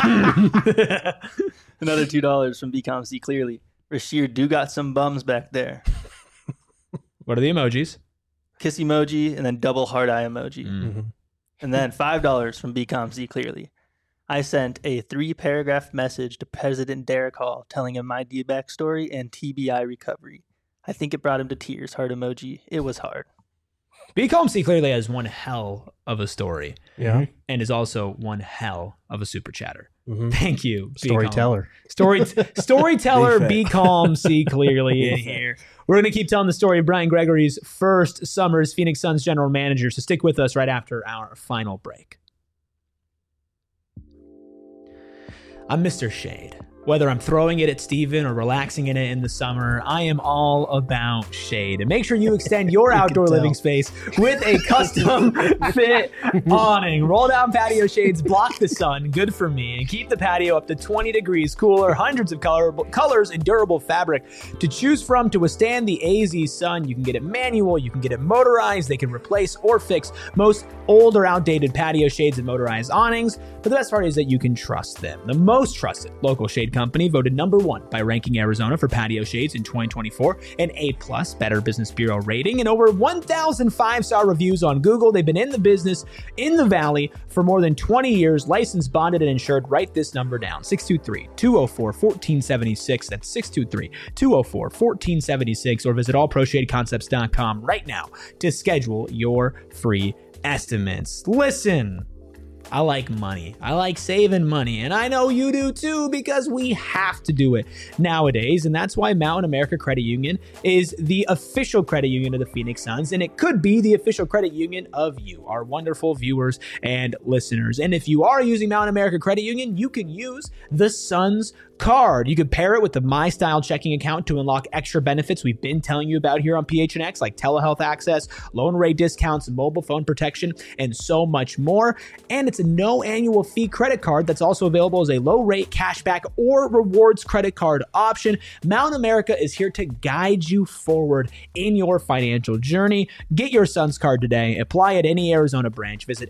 BCOM. Another $2 from BCOM See Clearly. Rasheer do got some bums back there. What are the emojis? Kiss emoji and then double heart eye emoji. And then $5 from BCOM See Clearly. I sent a 3-paragraph message to President Derek Hall telling him my D-back story and TBI recovery. I think it brought him to tears. Heart emoji. It was hard. BCOM See Clearly has one hell of a story. Yeah. And is also one hell of a super chatter. Thank you, Storyteller. Storyteller, BCOM See Clearly in here. We're going to keep telling the story of Brian Gregory's first summer as Phoenix Suns general manager, so stick with us right after our final break. I'm Mr. Shade. Whether I'm throwing it at Steven or relaxing in it in the summer, I am all about shade. And make sure you extend your outdoor living space with a custom fit awning. Roll down patio shades block the sun, good for me, and keep the patio up to 20 degrees cooler. Hundreds of colors and durable fabric to choose from to withstand the AZ sun. You can get it manual, you can get it motorized. They can replace or fix most old or outdated patio shades and motorized awnings. But the best part is that you can trust them. The most trusted local shade Company voted number 1 by Ranking Arizona for patio shades in 2024, an A+ Better Business Bureau rating, and over 1,000 5-star reviews on Google. They've been in the business in the Valley for more than 20 years, licensed, bonded, and insured. Write this number down, 623-204-1476. That's 623-204-1476, or visit allproshadeconcepts.com right now to schedule your free estimates. Listen, I like money. I like saving money, and I know you do too, because we have to do it nowadays, and that's why Mountain America Credit Union is the official credit union of the Phoenix Suns, and it could be the official credit union of you, our wonderful viewers and listeners. And if you are using Mountain America Credit Union, you can use the Suns card. You could pair it with the My Style checking account to unlock extra benefits we've been telling you about here on PHNX, like telehealth access, loan rate discounts, mobile phone protection, and so much more. And it's a no annual fee credit card that's also available as a low rate cashback or rewards credit card option. Mountain America is here to guide you forward in your financial journey. Get your Suns card today. Apply at any Arizona branch. Visit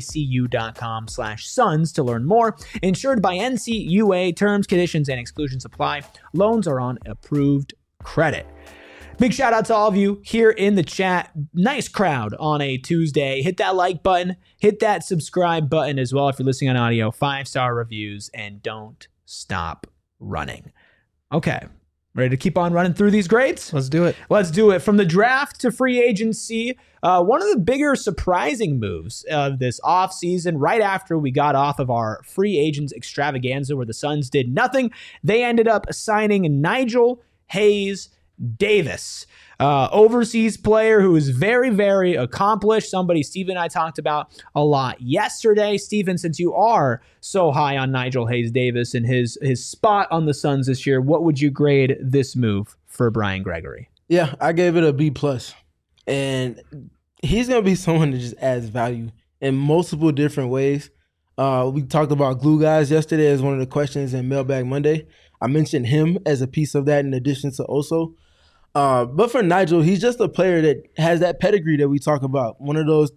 macu.com/suns to learn more. Insured by NCUA. Terms, conditions, and exclusions apply. Loans are on approved credit. Big shout out to all of you here in the chat. Nice crowd on a Tuesday. Hit that like button. Hit that subscribe button as well if you're listening on audio. 5-star reviews, and don't stop running. Okay. Ready to keep on running through these grades? Let's do it. Let's do it. From the draft to free agency, one of the bigger surprising moves of this offseason, right after we got off of our free agents extravaganza where the Suns did nothing, they ended up signing Nigel Hayes Davis, overseas player who is very, very accomplished. Somebody Steven and I talked about a lot yesterday. Steven, since you are so high on Nigel Hayes Davis and his spot on the Suns this year, what would you grade this move for Brian Gregory? Yeah, I gave it a B+. And he's going to be someone that just adds value in multiple different ways. We talked about glue guys yesterday as one of the questions in Mailbag Monday. I mentioned him as a piece of that in addition to Oso. But for Nigel, he's just a player that has that pedigree that we talk about. One of those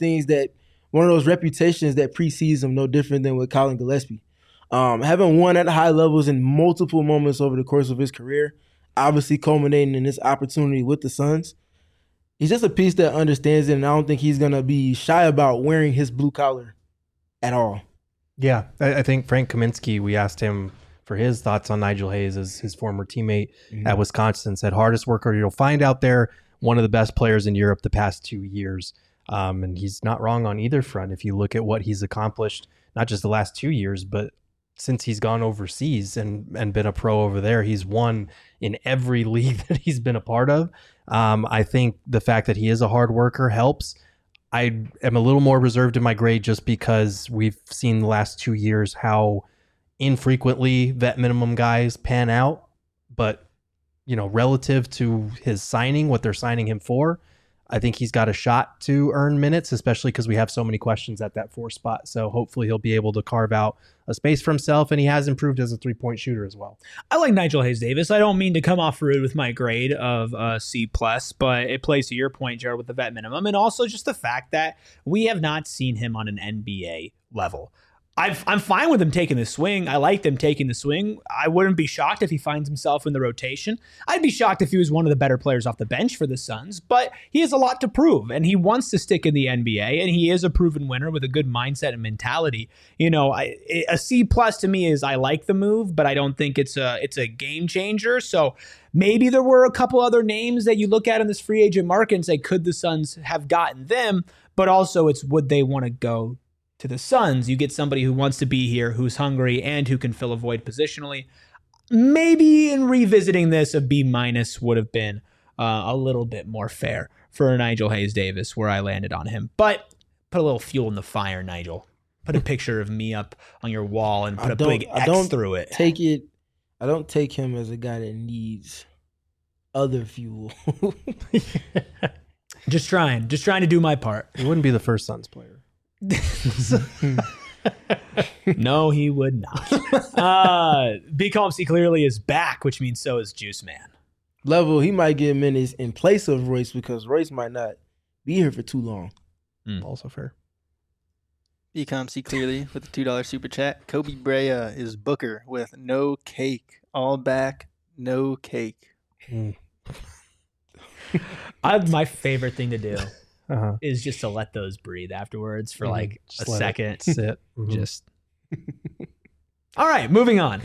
reputations that precedes him, no different than with Colin Gillespie. Having won at high levels in multiple moments over the course of his career, obviously culminating in this opportunity with the Suns. He's just a piece that understands it, and I don't think he's going to be shy about wearing his blue collar at all. Yeah, I think Frank Kaminsky, we asked him for his thoughts on Nigel Hayes as his former teammate at Wisconsin, said hardest worker you'll find out there, one of the best players in Europe the past 2 years. And he's not wrong on either front. If you look at what he's accomplished, not just the last 2 years, but since he's gone overseas and been a pro over there, he's won in every league that he's been a part of. I think the fact that he is a hard worker helps. I am a little more reserved in my grade just because we've seen the last 2 years how infrequently vet minimum guys pan out, but relative to his signing, what they're signing him for, I think he's got a shot to earn minutes, especially because we have so many questions at that 4 spot. So hopefully he'll be able to carve out a space for himself, and he has improved as a 3-point shooter as well. I like Nigel Hayes Davis. I don't mean to come off rude with my grade of C+, but it plays to your point, Jared, with the vet minimum, and also just the fact that we have not seen him on an NBA level. I'm fine with him taking the swing. I like them taking the swing. I wouldn't be shocked if he finds himself in the rotation. I'd be shocked if he was one of the better players off the bench for the Suns, but he has a lot to prove, and he wants to stick in the NBA, and he is a proven winner with a good mindset and mentality. A C+ to me is I like the move, but I don't think it's a game changer. So maybe there were a couple other names that you look at in this free agent market and say, could the Suns have gotten them? But also it's would they want to go to the Suns? You get somebody who wants to be here, who's hungry, and who can fill a void positionally. Maybe in revisiting this, a B- would have been a little bit more fair for Nigel Hayes Davis, where I landed on him. But put a little fuel in the fire, Nigel. Put a picture of me up on your wall and put a big X through it. I don't take him as a guy that needs other fuel. Just trying to do my part. He wouldn't be the first Suns player. No, he would not. B. Comsey clearly is back, which means so is Juice Man. Level, he might get minutes in place of Royce because Royce might not be here for too long. Also fair. Becom C clearly with a $2 super chat. Kobe Brea is Booker with no cake. All back, no cake. My favorite thing to do Uh-huh. is just to let those breathe afterwards for Mhm. like Just a let it second. sit. Mhm. Just. All right, moving on.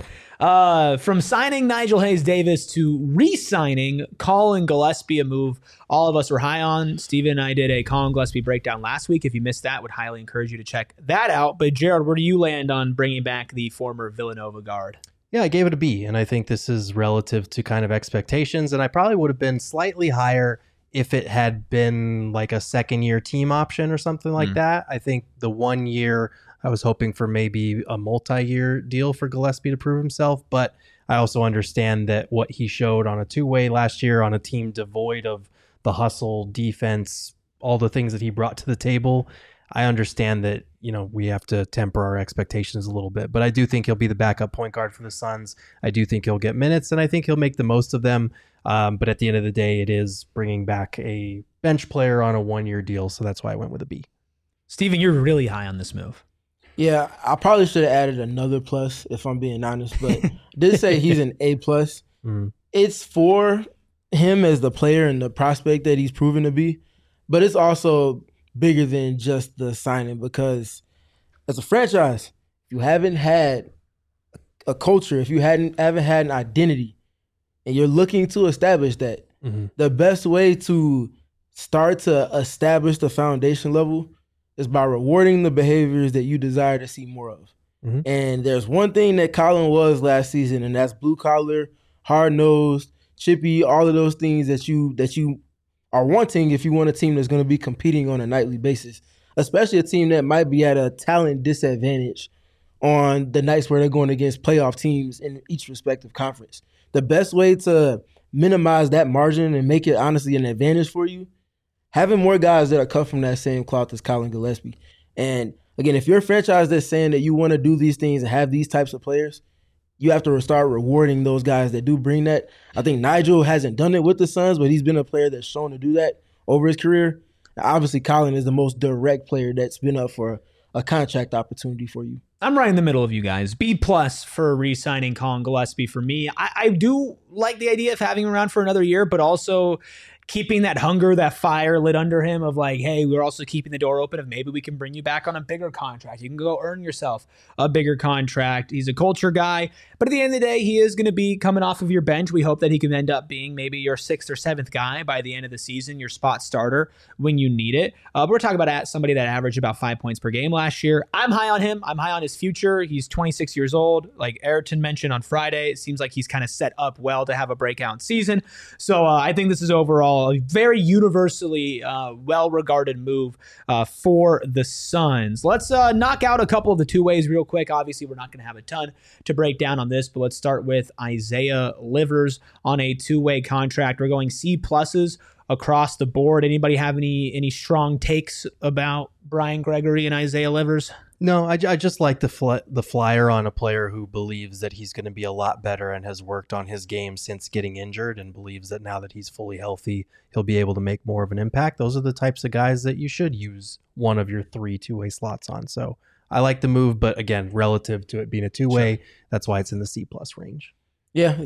From signing Nigel Hayes Davis to re-signing Colin Gillespie, a move all of us were high on. Steven and I did a Colin Gillespie breakdown last week. If you missed that, would highly encourage you to check that out. But Jared, where do you land on bringing back the former Villanova guard? Yeah, I gave it a B, and I think this is relative to kind of expectations, and I probably would have been slightly higher if it had been like a second-year team option or something like that. I think the 1 year, I was hoping for maybe a multi-year deal for Gillespie to prove himself, but I also understand that what he showed on a two-way last year on a team devoid of the hustle, defense, all the things that he brought to the table, I understand that, we have to temper our expectations a little bit, but I do think he'll be the backup point guard for the Suns. I do think he'll get minutes, and I think he'll make the most of them. But at the end of the day, it is bringing back a bench player on a 1 year deal, so that's why I went with a B. Steven, you're really high on this move. Yeah, I probably should have added another plus if I'm being honest, but did say he's an A plus. Mm. It's for him as the player and the prospect that he's proven to be, but it's also bigger than just the signing because as a franchise, if you haven't had a culture, if you haven't had an identity, and you're looking to establish that, the best way to start to establish the foundation level is by rewarding the behaviors that you desire to see more of. Mhm. And there's one thing that Colin was last season, and that's blue collar, hard nosed, chippy, all of those things that you are wanting if you want a team that's going to be competing on a nightly basis, especially a team that might be at a talent disadvantage on the nights where they're going against playoff teams in each respective conference. The best way to minimize that margin and make it honestly an advantage for you, having more guys that are cut from that same cloth as Colin Gillespie. And again, if you're a franchise that's saying that you want to do these things and have these types of players, you have to start rewarding those guys that do bring that. I think Nigel hasn't done it with the Suns, but he's been a player that's shown to do that over his career. Obviously, Colin is the most direct player that's been up for a contract opportunity for you. I'm right in the middle of you guys. B plus for re-signing Colin Gillespie for me. I do like the idea of having him around for another year, but also keeping that hunger, that fire lit under him of like, hey, we're also keeping the door open of maybe we can bring you back on a bigger contract. You can go earn yourself a bigger contract. He's a culture guy, but at the end of the day, he is going to be coming off of your bench. We hope that he can end up being maybe your 6th or 7th guy by the end of the season, your spot starter when you need it. We're talking about somebody that averaged about 5 points per game last year. I'm high on him. I'm high on his future. He's 26 years old. Like Ayrton mentioned on Friday, it seems like he's kind of set up well to have a breakout season. So I think this is overall a very universally well-regarded move for the Suns. Let's knock out a couple of the two ways real quick. Obviously, we're not going to have a ton to break down on this, but let's start with Isaiah Livers on a two-way contract. We're going C pluses across the board. Anybody have any strong takes about Brian Gregory and Isaiah Livers? No, I just like the flyer on a player who believes that he's going to be a lot better and has worked on his game since getting injured and believes that now that he's fully healthy, he'll be able to make more of an impact. Those are the types of guys that you should use one of your 3 two-way slots on. So I like the move, but again, relative to it being a two-way, sure, that's why it's in the C plus range. Yeah,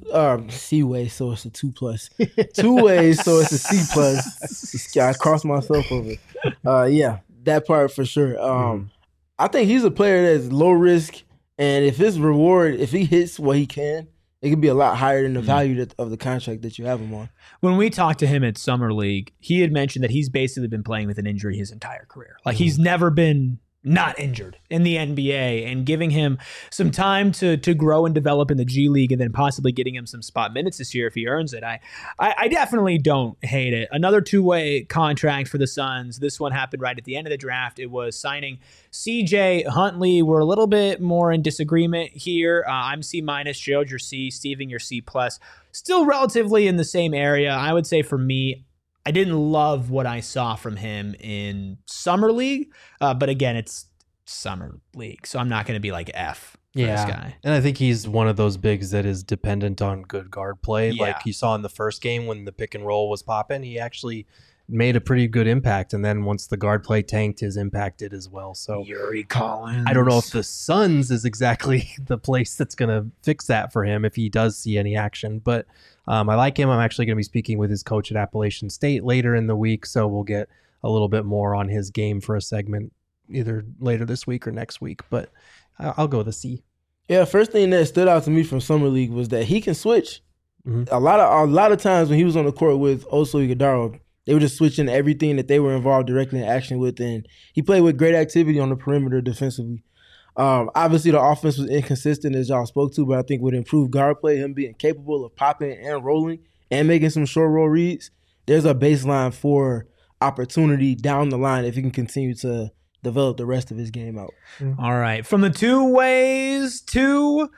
C way, so it's a 2 plus. 2 ways, so it's a C plus. I crossed myself over. Yeah, that part for sure. I think he's a player that's low risk, and if his reward, if he hits what he can, it could be a lot higher than the value of the contract that you have him on. When we talked to him at Summer League, he had mentioned that he's basically been playing with an injury his entire career. Like he's never been not injured in the NBA, and giving him some time to grow and develop in the G League and then possibly getting him some spot minutes this year if he earns it. I definitely don't hate it. Another two-way contract for the Suns. This one happened right at the end of the draft. It was signing CJ Huntley. We're a little bit more in disagreement here. I'm C minus, Gerald, your C, Steven, your C plus. Still relatively in the same area. I would say for me, I didn't love what I saw from him in Summer League, but again, it's Summer League, so I'm not going to be like F for this guy. And I think he's one of those bigs that is dependent on good guard play. Yeah. Like you saw in the first game when the pick and roll was popping, he actually made a pretty good impact. And then once the guard play tanked, his impact did as well. So Yuri Collins. I don't know if the Suns is exactly the place that's going to fix that for him if he does see any action. But I like him. I'm actually going to be speaking with his coach at Appalachian State later in the week, so we'll get a little bit more on his game for a segment either later this week or next week. But I'll go with a C. Yeah, first thing that stood out to me from Summer League was that he can switch. Mm-hmm. A lot of times when he was on the court with Oso Ighodaro, they were just switching everything that they were involved directly in action with, and he played with great activity on the perimeter defensively. Obviously, the offense was inconsistent, as y'all spoke to, but I think with improved guard play, him being capable of popping and rolling and making some short roll reads, there's a baseline for opportunity down the line if he can continue to develop the rest of his game out. All right. From the two ways to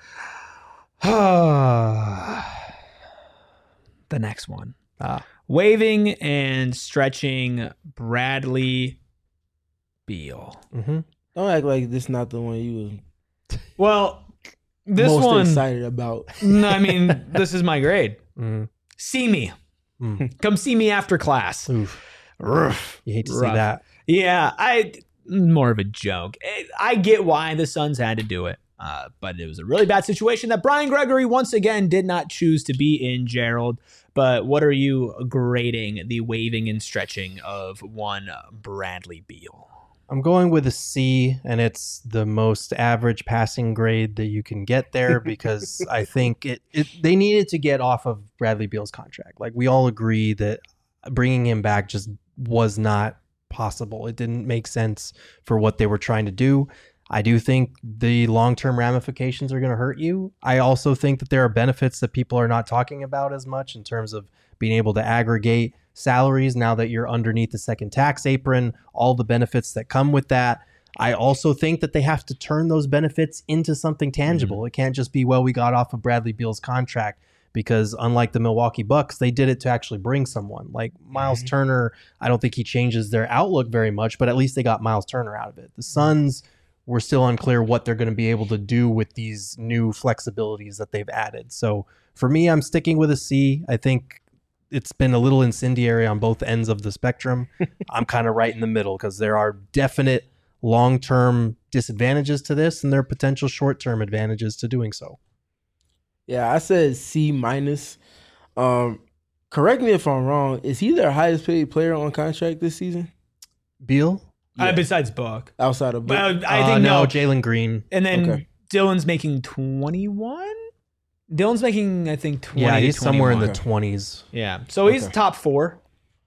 the next one. Waving and stretching Bradley Beal. Mm-hmm. Don't act like this is not the one you Well, were this most one, excited about. no, I mean, this is my grade. Mm-hmm. See me. Come see me after class. Oof. Rough. You hate to see Rough. that. Yeah, more of a joke. I get why the Suns had to do it, but it was a really bad situation that Brian Gregory once again did not choose to be in, Gerald. But what are you grading the waving and stretching of one Bradley Beal? I'm going with a C, and it's the most average passing grade that you can get there because I think they needed to get off of Bradley Beal's contract. Like, we all agree that bringing him back just was not possible. It didn't make sense for what they were trying to do. I do think the long-term ramifications are going to hurt you. I also think that there are benefits that people are not talking about as much in terms of being able to aggregate salaries now that you're underneath the second tax apron, all the benefits that come with that. I also think that they have to turn those benefits into something tangible. It can't just be, well, we got off of Bradley Beal's contract, because unlike the Milwaukee Bucks, they did it to actually bring someone. Like Miles Turner, I don't think he changes their outlook very much, but at least they got Miles Turner out of it. The Suns were still unclear what they're going to be able to do with these new flexibilities that they've added. So for me, I'm sticking with a C. I think it's been a little incendiary on both ends of the spectrum. I'm kind of right in the middle because there are definite long-term disadvantages to this and there are potential short-term advantages to doing so. Yeah, I said C minus. Correct me if I'm wrong. Is he their highest paid player on contract this season? Beal? Yeah. Besides Book. Outside of Book? Well, I think no. Jalen Green. And then Okay. Dylan's making 21? Dylan's making, I think, 20 Yeah, to he's somewhere in the 21. 20s. Yeah. So he's Okay. top 4.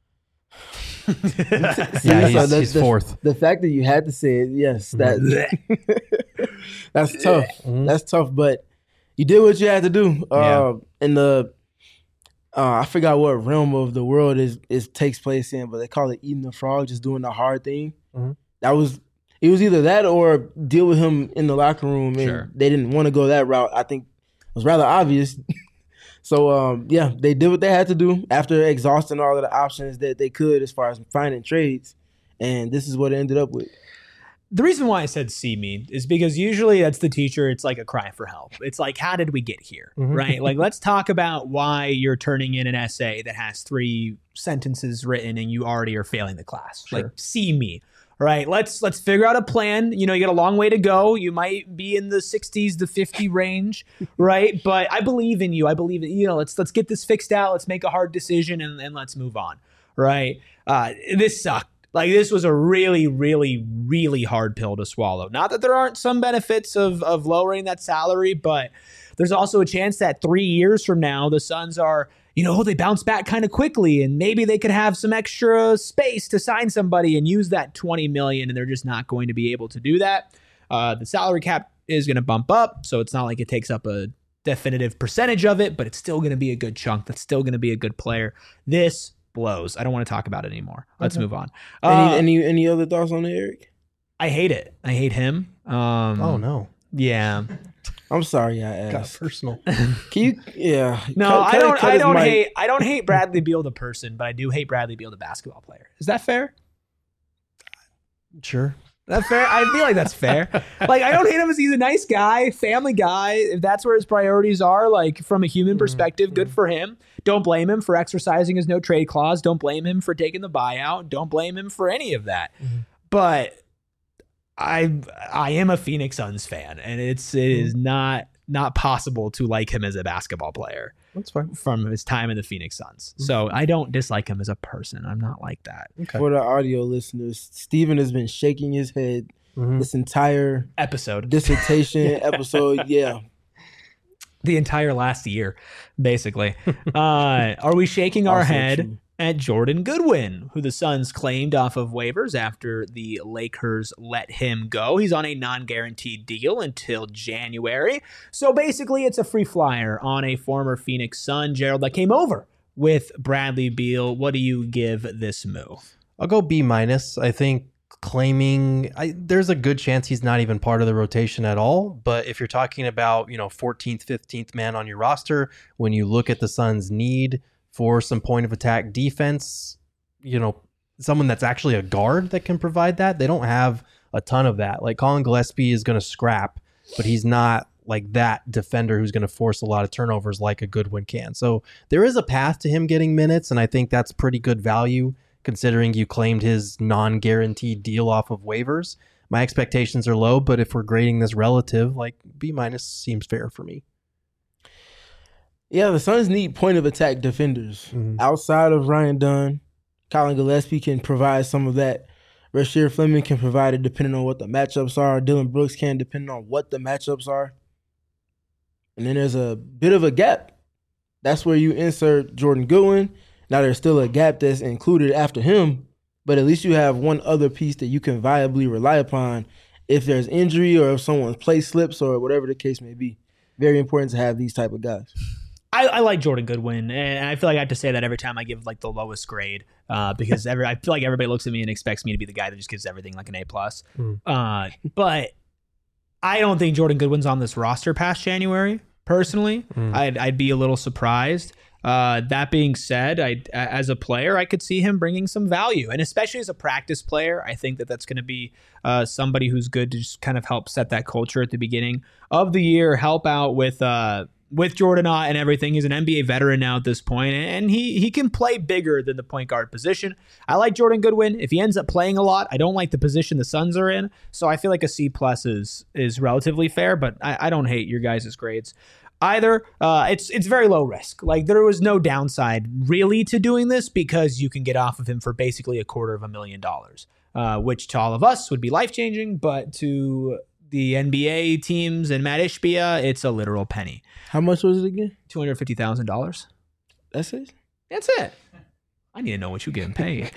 Yeah, So he's fourth. The fact that you had to say it, yes, that's tough. Mhm. That's tough, but you did what you had to do. Yeah. In the I forgot what realm of the world is takes place in, but they call it eating the frog, just doing the hard thing. Mhm. It was either that or deal with him in the locker room, and Sure. they didn't want to go that route. I think it was rather obvious. So yeah, they did what they had to do after exhausting all of the options that they could as far as finding trades, and this is what it ended up with. The reason why I said see me is because usually that's the teacher. It's like a cry for help. It's like, how did we get here? Mhm. Right? Like, let's talk about why you're turning in an essay that has 3 sentences written and you already are failing the class. Sure. Like, see me. Right? Let's figure out a plan. You know, you got a long way to go. You might be in the 60s to 50 range, right? But I believe in you. I believe in, let's get this fixed out. Let's make a hard decision and let's move on. Right? This sucked. Like, this was a really, really, really hard pill to swallow. Not that there aren't some benefits of lowering that salary, but there's also a chance that 3 years from now, the Suns are, they bounce back kind of quickly and maybe they could have some extra space to sign somebody and use that $20 million, and they're just not going to be able to do that. The salary cap is going to bump up, so it's not like it takes up a definitive percentage of it, but it's still going to be a good chunk. That's still going to be a good player. This blows. I don't want to talk about it anymore. Let's move on. Any other thoughts on it, Eric? I hate it. I hate him. Oh, no. Yeah. I'm sorry I Got asked. personal. Can you? Yeah. No, Cut I his don't mic. hate. I don't hate Bradley Beal the person, but I do hate Bradley Beal the basketball player. Is that fair? Sure. That fair? I feel like that's fair. Like, I don't hate him as he's a nice guy, family guy. If that's where his priorities are, like from a human perspective, good for him. Don't blame him for exercising his no trade clause. Don't blame him for taking the buyout. Don't blame him for any of that. But I am a Phoenix Suns fan, and it is not possible to like him as a basketball player. That's fine. From his time in the Phoenix Suns. So I don't dislike him as a person. I'm not like that. Okay. For the audio listeners, Steven has been shaking his head this entire Episode. dissertation episode. Yeah. The entire last year, basically. Are we shaking our Also head true. at Jordan Goodwin, who the Suns claimed off of waivers after the Lakers let him go? He's on a non-guaranteed deal until January. So basically, it's a free flyer on a former Phoenix Sun, Gerald, that came over with Bradley Beal. What do you give this move? I'll go B-. I think there's a good chance he's not even part of the rotation at all. But if you're talking about, 14th, 15th man on your roster, when you look at the Suns' need for some point of attack defense, someone that's actually a guard that can provide that, they don't have a ton of that. Like Colin Gillespie is going to scrap, but he's not like that defender who's going to force a lot of turnovers like a Goodwin can. So there is a path to him getting minutes, and I think that's pretty good value considering you claimed his non-guaranteed deal off of waivers. My expectations are low, but if we're grading this relative, like B- seems fair for me. Yeah, the Suns need point of attack defenders. Outside of Ryan Dunn, Colin Gillespie can provide some of that. Rasheed Fleming can provide it depending on what the matchups are. Dylan Brooks can depending on what the matchups are. And then there's a bit of a gap. That's where you insert Jordan Goodwin. Now there's still a gap that's included after him, but at least you have one other piece that you can viably rely upon if there's injury or if someone's play slips or whatever the case may be. Very important to have these type of guys. I like Jordan Goodwin, and I feel like I have to say that every time I give like the lowest grade because I feel like everybody looks at me and expects me to be the guy that just gives everything like an A+. But I don't think Jordan Goodwin's on this roster past January. Personally, I'd be a little surprised. That being said, as a player, I could see him bringing some value, and especially as a practice player, I think that's going to be somebody who's good to just kind of help set that culture at the beginning of the year, help out with Jordan and everything. He's an NBA veteran now at this point, and he can play bigger than the point guard position. I like Jordan Goodwin. If he ends up playing a lot, I don't like the position the Suns are in, so I feel like a C+ is relatively fair, but I don't hate your guys' grades either. It's very low risk. Like, there was no downside really to doing this because you can get off of him for basically $250,000, which to all of us would be life-changing, but to the NBA teams and Matt Ishbia, it's a literal penny. How much was it again? $250,000. That's it? That's it. I need to know what you're getting paid.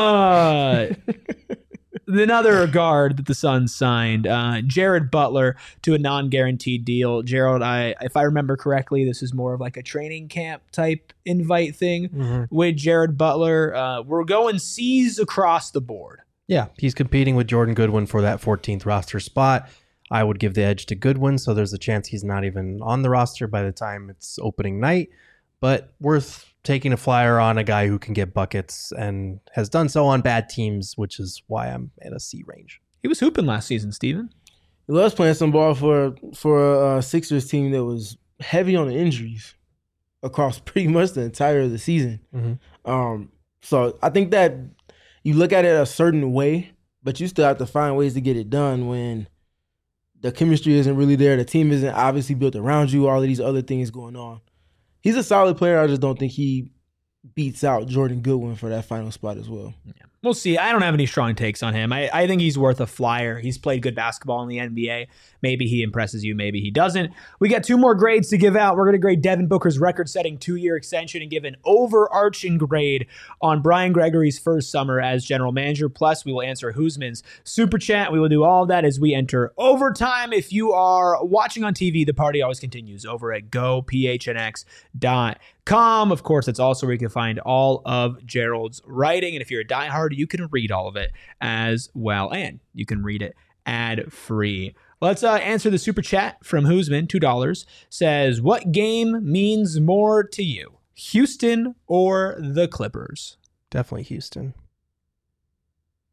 Another guard that the Suns signed, Jared Butler, to a non-guaranteed deal. Gerald, if I remember correctly, this is more of like a training camp type invite thing with Jared Butler. We're going C's across the board. Yeah, he's competing with Jordan Goodwin for that 14th roster spot. I would give the edge to Goodwin, so there's a chance he's not even on the roster by the time it's opening night. But worth taking a flyer on a guy who can get buckets and has done so on bad teams, which is why I'm at a C range. He was hooping last season, Steven. He loves playing some ball for a Sixers team that was heavy on the injuries across pretty much the entire of the season. So I think that you look at it a certain way, but you still have to find ways to get it done when the chemistry isn't really there. The team isn't obviously built around you. All of these other things going on. He's a solid player. I just don't think he beats out Jordan Goodwin for that final spot as well. Yeah. We'll see. I don't have any strong takes on him. I think he's worth a flyer. He's played good basketball in the NBA. Maybe he impresses you. Maybe he doesn't. We got 2 more grades to give out. We're going to grade Devin Booker's record-setting 2-year extension and give an overarching grade on Brian Gregory's first summer as general manager. Plus, we will answer Husman's super chat. We will do all of that as we enter overtime. If you are watching on TV, the party always continues over at gophnx.com. Of course, that's also where you can find all of Gerald's writing. And if you're a diehard, you can read all of it as well. And you can read it ad-free. Let's answer the super chat from Husman, $2. Says, what game means more to you, Houston or the Clippers? Definitely Houston.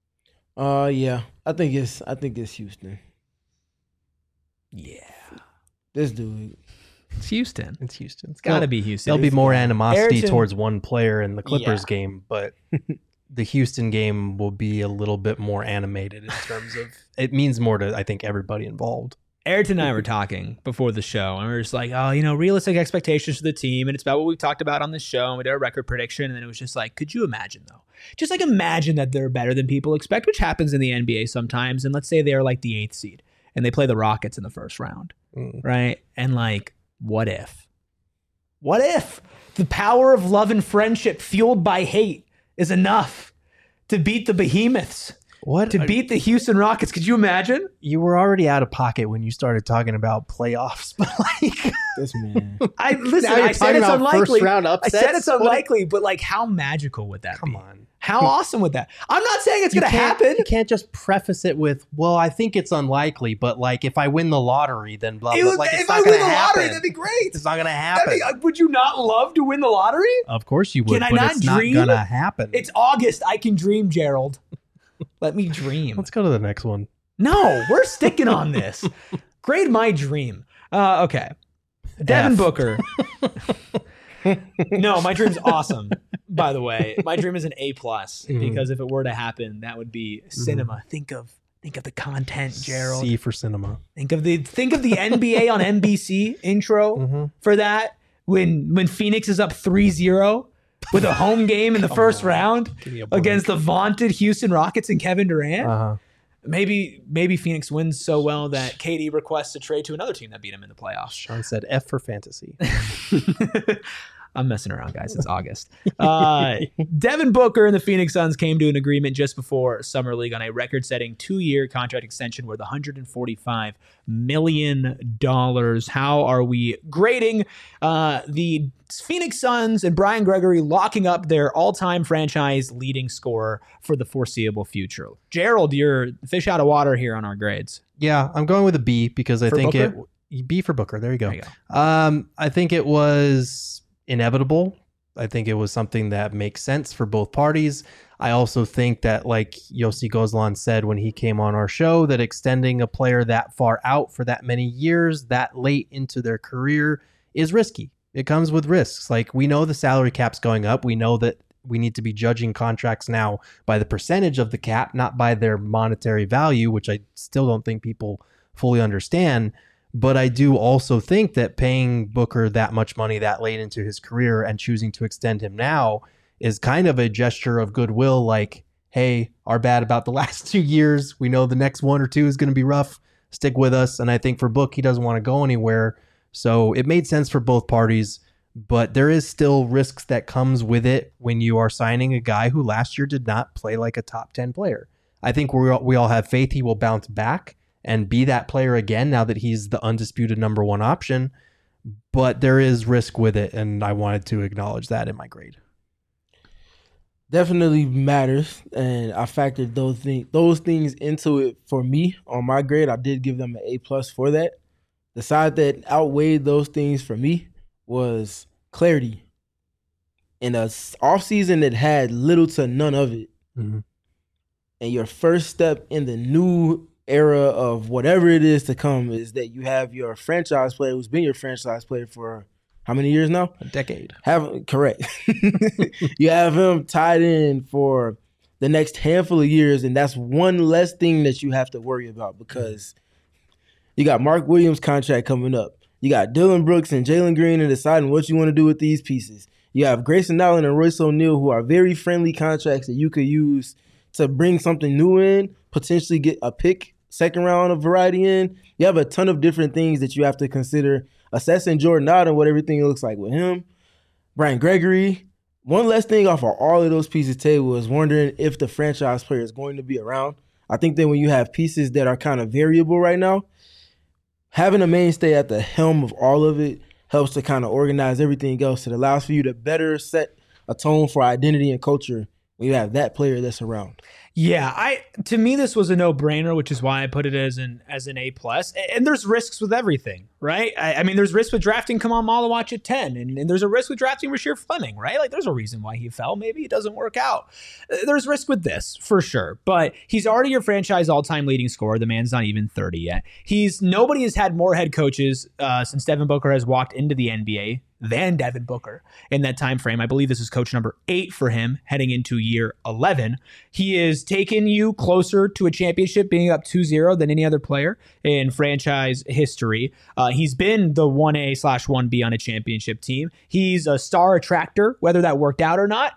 Yeah. I think it's Houston. Yeah. This dude. It's Houston. It's Houston. It's got to be Houston. There'll be more animosity Ayrton- towards one player in the Clippers Yeah. game, but the Houston game will be a little bit more animated in terms of it means more to, I think, everybody involved. Ayrton and I were talking before the show, and we were just like, oh, realistic expectations for the team, and it's about what we've talked about on this show, and we did a record prediction, and then it was just like, could you imagine, though? Just like imagine that they're better than people expect, which happens in the NBA sometimes, and let's say they're like the 8th seed, and they play the Rockets in the first round, right? And like, what if? What if the power of love and friendship fueled by hate is enough to beat the behemoths? What? To beat the Houston Rockets? Could you imagine? You were already out of pocket when you started talking about playoffs, but like, This man. I Now you're said talking it's about unlikely. first round I said upsets? it's unlikely, but like, how magical would that come be? on. How awesome would that? I'm not saying it's You going to can't- happen. You can't just preface it with, well, I think it's unlikely, but like if I win the lottery, then blah, It blah. would- Like, it's if not I gonna win the happen. lottery, that'd be great. It's not going to That'd happen. be- would you not love to win the lottery? Of course you would, Can I but not it's dream? not going to happen. It's August. I can dream, Gerald. Let me dream. Let's go to the next one. No, we're sticking on this. Grade my dream. Okay. Devin F. Booker. No, my dream's awesome. By the way, my dream is an A+, because if it were to happen, that would be cinema. Think of the content, Gerald. C for cinema. Think of the NBA on NBC intro for that when Phoenix is up 3-0 with a home game in the first round me a break. against the vaunted Houston Rockets and Kevin Durant. Uh-huh. Maybe Phoenix wins so well that KD requests a trade to another team that beat him in the playoffs. Sean said F for fantasy. I'm messing around, guys. It's August. Devin Booker and the Phoenix Suns came to an agreement just before Summer League on a record-setting 2-year contract extension worth $145 million. How are we grading the Phoenix Suns and Brian Gregory locking up their all-time franchise leading scorer for the foreseeable future? Gerald, you're fish out of water here on our grades. Yeah, I'm going with a B because I For think Booker? B for Booker. There you go. There you go. I think it was inevitable. I think it was something that makes sense for both parties. I also think that, like Yossi Gozlan said when he came on our show, that extending a player that far out for that many years, that late into their career, is risky. It comes with risks. Like, we know the salary cap's going up. We know that we need to be judging contracts now by the percentage of the cap, not by their monetary value, which I still don't think people fully understand. But I do also think that paying Booker that much money that late into his career and choosing to extend him now is kind of a gesture of goodwill. Like, hey, our bad about the last 2 years. We know the next 1 or 2 is going to be rough. Stick with us. And I think for Book, he doesn't want to go anywhere. So it made sense for both parties. But there is still risks that comes with it when you are signing a guy who last year did not play like a top 10 player. I think we all have faith he will bounce back and be that player again now that he's the undisputed number 1 option. But there is risk with it, and I wanted to acknowledge that in my grade. Definitely matters, and I factored those things into it for me on my grade. I did give them an A+ for that. The side that outweighed those things for me was clarity. In a offseason that had little to none of it, and your first step in the new era of whatever it is to come is that you have your franchise player who's been your franchise player for how many years now? A decade. Correct. You have him tied in for the next handful of years, and that's one less thing that you have to worry about because you got Mark Williams' contract coming up. You got Dylan Brooks and Jalen Green and deciding what you want to do with these pieces. You have Grayson Allen and Royce O'Neal, who are very friendly contracts that you could use to bring something new in, potentially get a pick, second round of variety in. You have a ton of different things that you have to consider. Assessing Jordan Out and what everything looks like with him. Brian Gregory. One less thing off of all of those pieces table is wondering if the franchise player is going to be around. I think that when you have pieces that are kind of variable right now, having a mainstay at the helm of all of it helps to kind of organize everything else. It allows for you to better set a tone for identity and culture when you have that player that's around. Yeah, to me this was a no-brainer, which is why I put it as an A+. And there's risks with everything, right? I mean, there's risks with drafting Kamal Malawach at 10, and there's a risk with drafting Rasheer Fleming, right? Like, there's a reason why he fell. Maybe it doesn't work out. There's risk with this for sure, but he's already your franchise all-time leading scorer. The man's not even 30 yet. Nobody has had more head coaches since Devin Booker has walked into the NBA than Devin Booker in that time frame. I believe this is coach number 8 for him heading into year 11. He has taken you closer to a championship, being up 2-0 than any other player in franchise history. He's been the 1A/1B on a championship team. He's a star attractor, whether that worked out or not.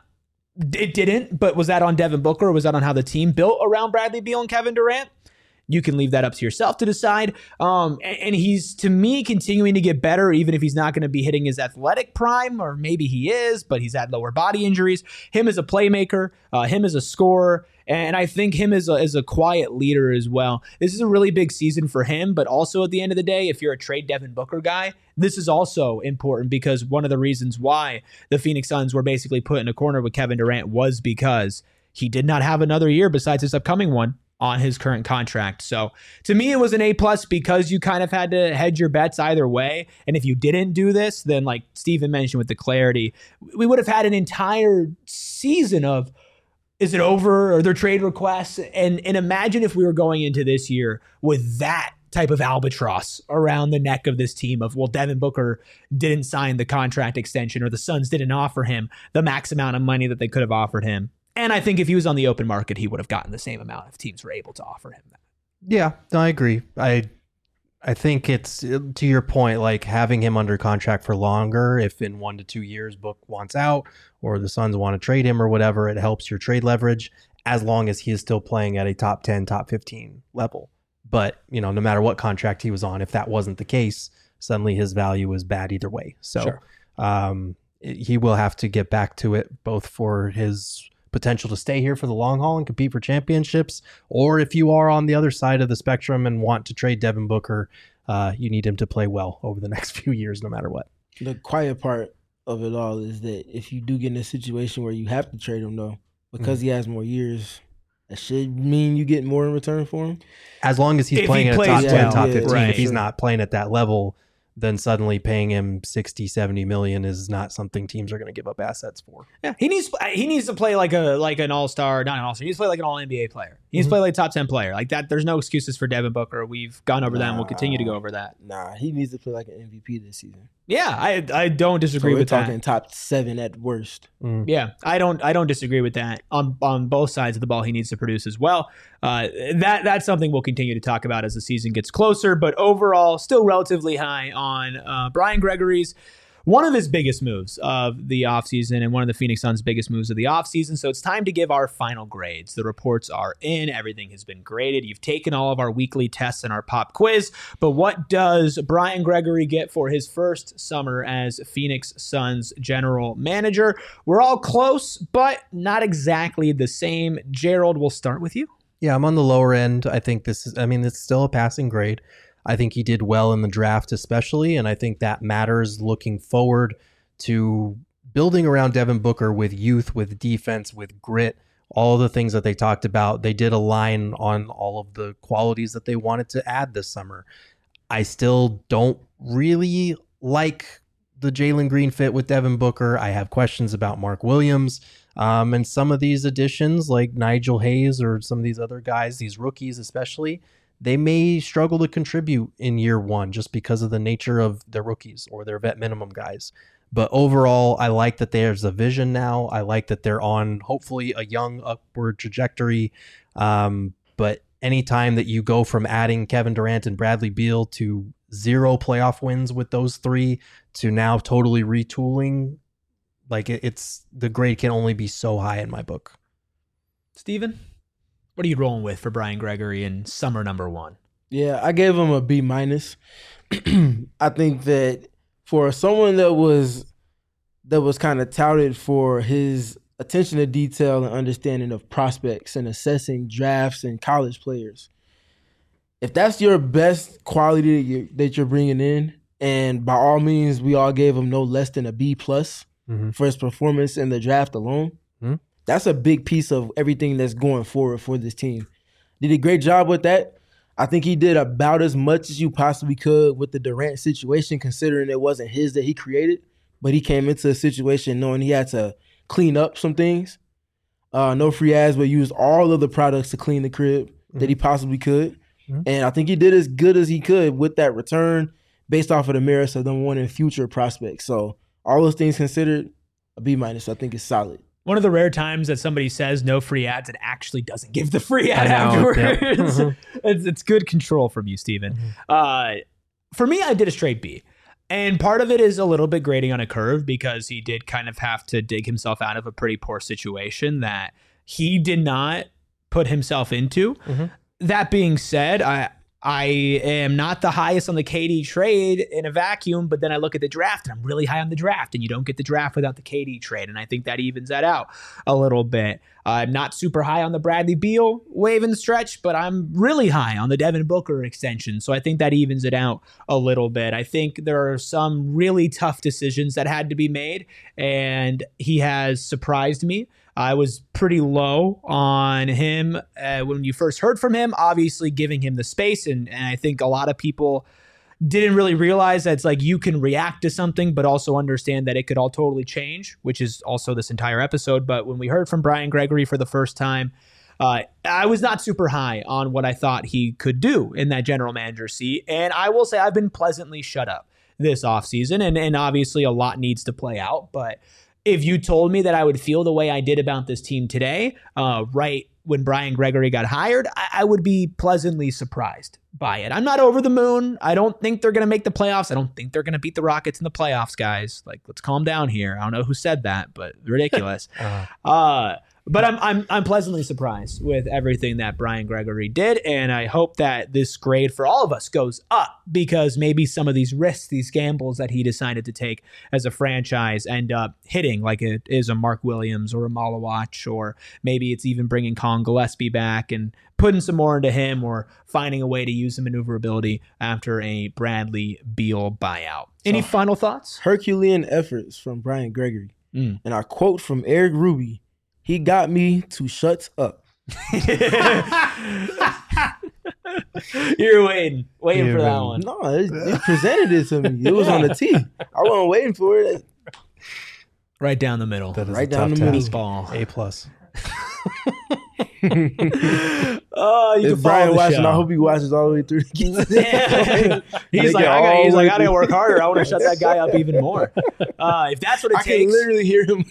It didn't, but was that on Devin Booker, or was that on how the team built around Bradley Beal and Kevin Durant? You can leave that up to yourself to decide. And he's, to me, continuing to get better, even if he's not going to be hitting his athletic prime, or maybe he is, but he's had lower body injuries. Him as a playmaker, him as a scorer, and I think him as a quiet leader as well. This is a really big season for him, but also at the end of the day, if you're a trade Devin Booker guy, this is also important, because one of the reasons why the Phoenix Suns were basically put in a corner with Kevin Durant was because he did not have another year besides this upcoming one on his current contract. So to me, it was an A+ because you kind of had to hedge your bets either way. And if you didn't do this, then like Steven mentioned with the clarity, we would have had an entire season of, is it over? Are there trade requests? And imagine if we were going into this year with that type of albatross around the neck of this team of, well, Devin Booker didn't sign the contract extension, or the Suns didn't offer him the max amount of money that they could have offered him. And I think if he was on the open market, he would have gotten the same amount if teams were able to offer him that. Yeah, no, I agree. I think it's, to your point, like having him under contract for longer, if in 1 to 2 years Book wants out or the Suns want to trade him or whatever, it helps your trade leverage as long as he is still playing at a top 10, top 15 level. But, no matter what contract he was on, if that wasn't the case, suddenly his value was bad either way. So sure. He will have to get back to it, both for his potential to stay here for the long haul and compete for championships, or if you are on the other side of the spectrum and want to trade Devin Booker, you need him to play well over the next few years, no matter what. The quiet part of it all is that if you do get in a situation where you have to trade him, though, because he has more years, that should mean you get more in return for him. As long as he's playing at a top 10, top 15. Right. If he's not playing at that level, then suddenly paying him 60, 70 million is not something teams are going to give up assets for. Yeah, he needs to play like an all-star, not an all-star. He needs to play like an all-NBA player. He needs to play like a top 10 player. Like that, there's no excuses for Devin Booker. We've gone over that and we'll continue to go over that. Nah, he needs to play like an MVP this season. Yeah, I don't disagree with that. We're talking top 7 at worst. Yeah, I don't disagree with that. On both sides of the ball, he needs to produce as well. That's something we'll continue to talk about as the season gets closer. But overall, still relatively high on Brian Gregory's one of his biggest moves of the offseason and one of the Phoenix Suns' biggest moves of the offseason. So it's time to give our final grades. The reports are in. Everything has been graded. You've taken all of our weekly tests and our pop quiz. But what does Brian Gregory get for his first summer as Phoenix Suns general manager? We're all close, but not exactly the same. Gerald, we'll start with you. Yeah, I'm on the lower end. I think it's still a passing grade. I think he did well in the draft especially, and I think that matters looking forward to building around Devin Booker with youth, with defense, with grit, all the things that they talked about. They did align on all of the qualities that they wanted to add this summer. I still don't really like the Jalen Green fit with Devin Booker. I have questions about Mark Williams and some of these additions like Nigel Hayes or some of these other guys, these rookies especially. They may struggle to contribute in year one just because of the nature of their rookies or their vet minimum guys. But overall, I like that there's a vision now. I like that they're on hopefully a young upward trajectory. But anytime that you go from adding Kevin Durant and Bradley Beal to 0 playoff wins with those 3 to now totally retooling, like it's the grade can only be so high in my book. Steven? What are you rolling with for Brian Gregory in summer number 1? Yeah, I gave him a B-. I think that for someone that was kind of touted for his attention to detail and understanding of prospects and assessing drafts and college players, if that's your best quality that you're bringing in, and by all means, we all gave him no less than a B+ for his performance in the draft alone. that's a big piece of everything that's going forward for this team. Did a great job with that. I think he did about as much as you possibly could with the Durant situation, considering it wasn't his that he created, but he came into a situation knowing he had to clean up some things. No free ads, but used all of the products to clean the crib that he possibly could. And I think he did as good as he could with that return based off of the merits of them wanting future prospects. So all those things considered, a B-, I think is solid. One of the rare times that somebody says no free ads and actually doesn't give the free ad afterwards. Yep. It's good control from you, Steven. For me, I did a straight B. And part of it is a little bit grading on a curve because he did kind of have to dig himself out of a pretty poor situation that he did not put himself into. That being said, I am not the highest on the KD trade in a vacuum, but then I look at the draft and I'm really high on the draft, and you don't get the draft without the KD trade. And I think that evens that out a little bit. I'm not super high on the Bradley Beal wave and stretch, but I'm really high on the Devin Booker extension. So I think that evens it out a little bit. I think there are some really tough decisions that had to be made, and he has surprised me. I was pretty low on him when you first heard from him, obviously giving him the space. And I think a lot of people didn't really realize that it's like you can react to something, but also understand that it could all totally change, which is also this entire episode. But when we heard from Brian Gregory for the first time, I was not super high on what I thought he could do in that general manager seat. And I will say I've been pleasantly shut up this offseason, and obviously a lot needs to play out. But if you told me that I would feel the way I did about this team today, right when Brian Gregory got hired, I would be pleasantly surprised by it. I'm not over the moon. I don't think they're going to make the playoffs. I don't think they're going to beat the Rockets in the playoffs, guys. Like, let's calm down here. I don't know who said that, but ridiculous. But I'm pleasantly surprised with everything that Brian Gregory did, and I hope that this grade for all of us goes up because maybe some of these risks, these gambles that he decided to take as a franchise end up hitting, like it is a Mark Williams or a Malawach, or maybe it's even bringing Colin Gillespie back and putting some more into him, or finding a way to use the maneuverability after a Bradley Beal buyout. Any final thoughts? Herculean efforts from Brian Gregory. And I quote from Eric Ruby, "He got me to shut up." You're waiting for that one. No, it presented it to me. It was on the tee. I wasn't waiting for it. Right down the middle. Right down the middle. Ball. A+. If Brian watching, I hope he watches all the way through. He's like, I gotta work harder. I want to shut that guy up even more. If that's what it takes, I can literally hear him.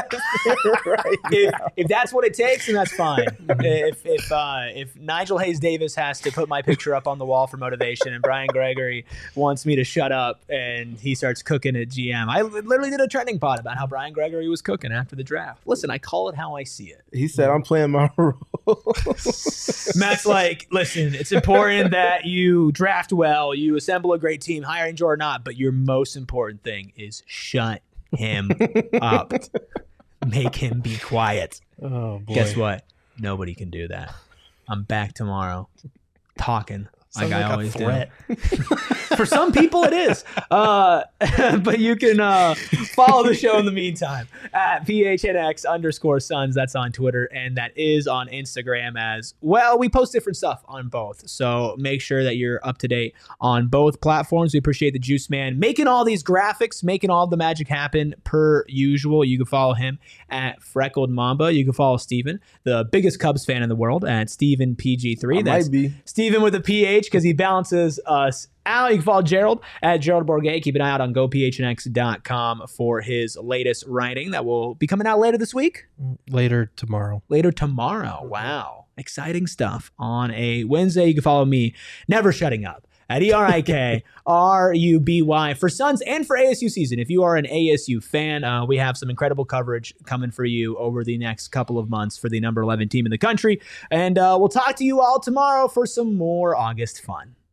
If that's what it takes, then that's fine. If Nigel Hayes Davis has to put my picture up on the wall for motivation, and Brian Gregory wants me to shut up, and he starts cooking at GM, I literally did a trending pod about how Brian Gregory was cooking after the draft. Listen, I call it how I see it. He said, "I'm playing my role." Matt's like, listen, it's important that you draft well, you assemble a great team, hiring Jordan Ott, but your most important thing is shut him up. Make him be quiet. Oh, boy. Guess what? Nobody can do that. I'm back tomorrow talking like I always do. For some people, it is. But you can follow the show in the meantime at PHNX_Suns. That's on Twitter, and that is on Instagram as well. We post different stuff on both, so make sure that you're up to date on both platforms. We appreciate the Juice Man making all these graphics, making all the magic happen per usual. You can follow him at Freckled Mamba. You can follow Steven, the biggest Cubs fan in the world, at Steven PG3. That's Steven with a PH because he balances us out. You can follow Gerald at Gerald Bourget. Keep an eye out on gophnx.com for his latest writing that will be coming out later this week. Later tomorrow. Wow. Exciting stuff on a Wednesday. You can follow me, Never Shutting Up, at ERIKRUBY for Suns and for ASU season. If you are an ASU fan, we have some incredible coverage coming for you over the next couple of months for the number 11 team in the country. And we'll talk to you all tomorrow for some more August fun.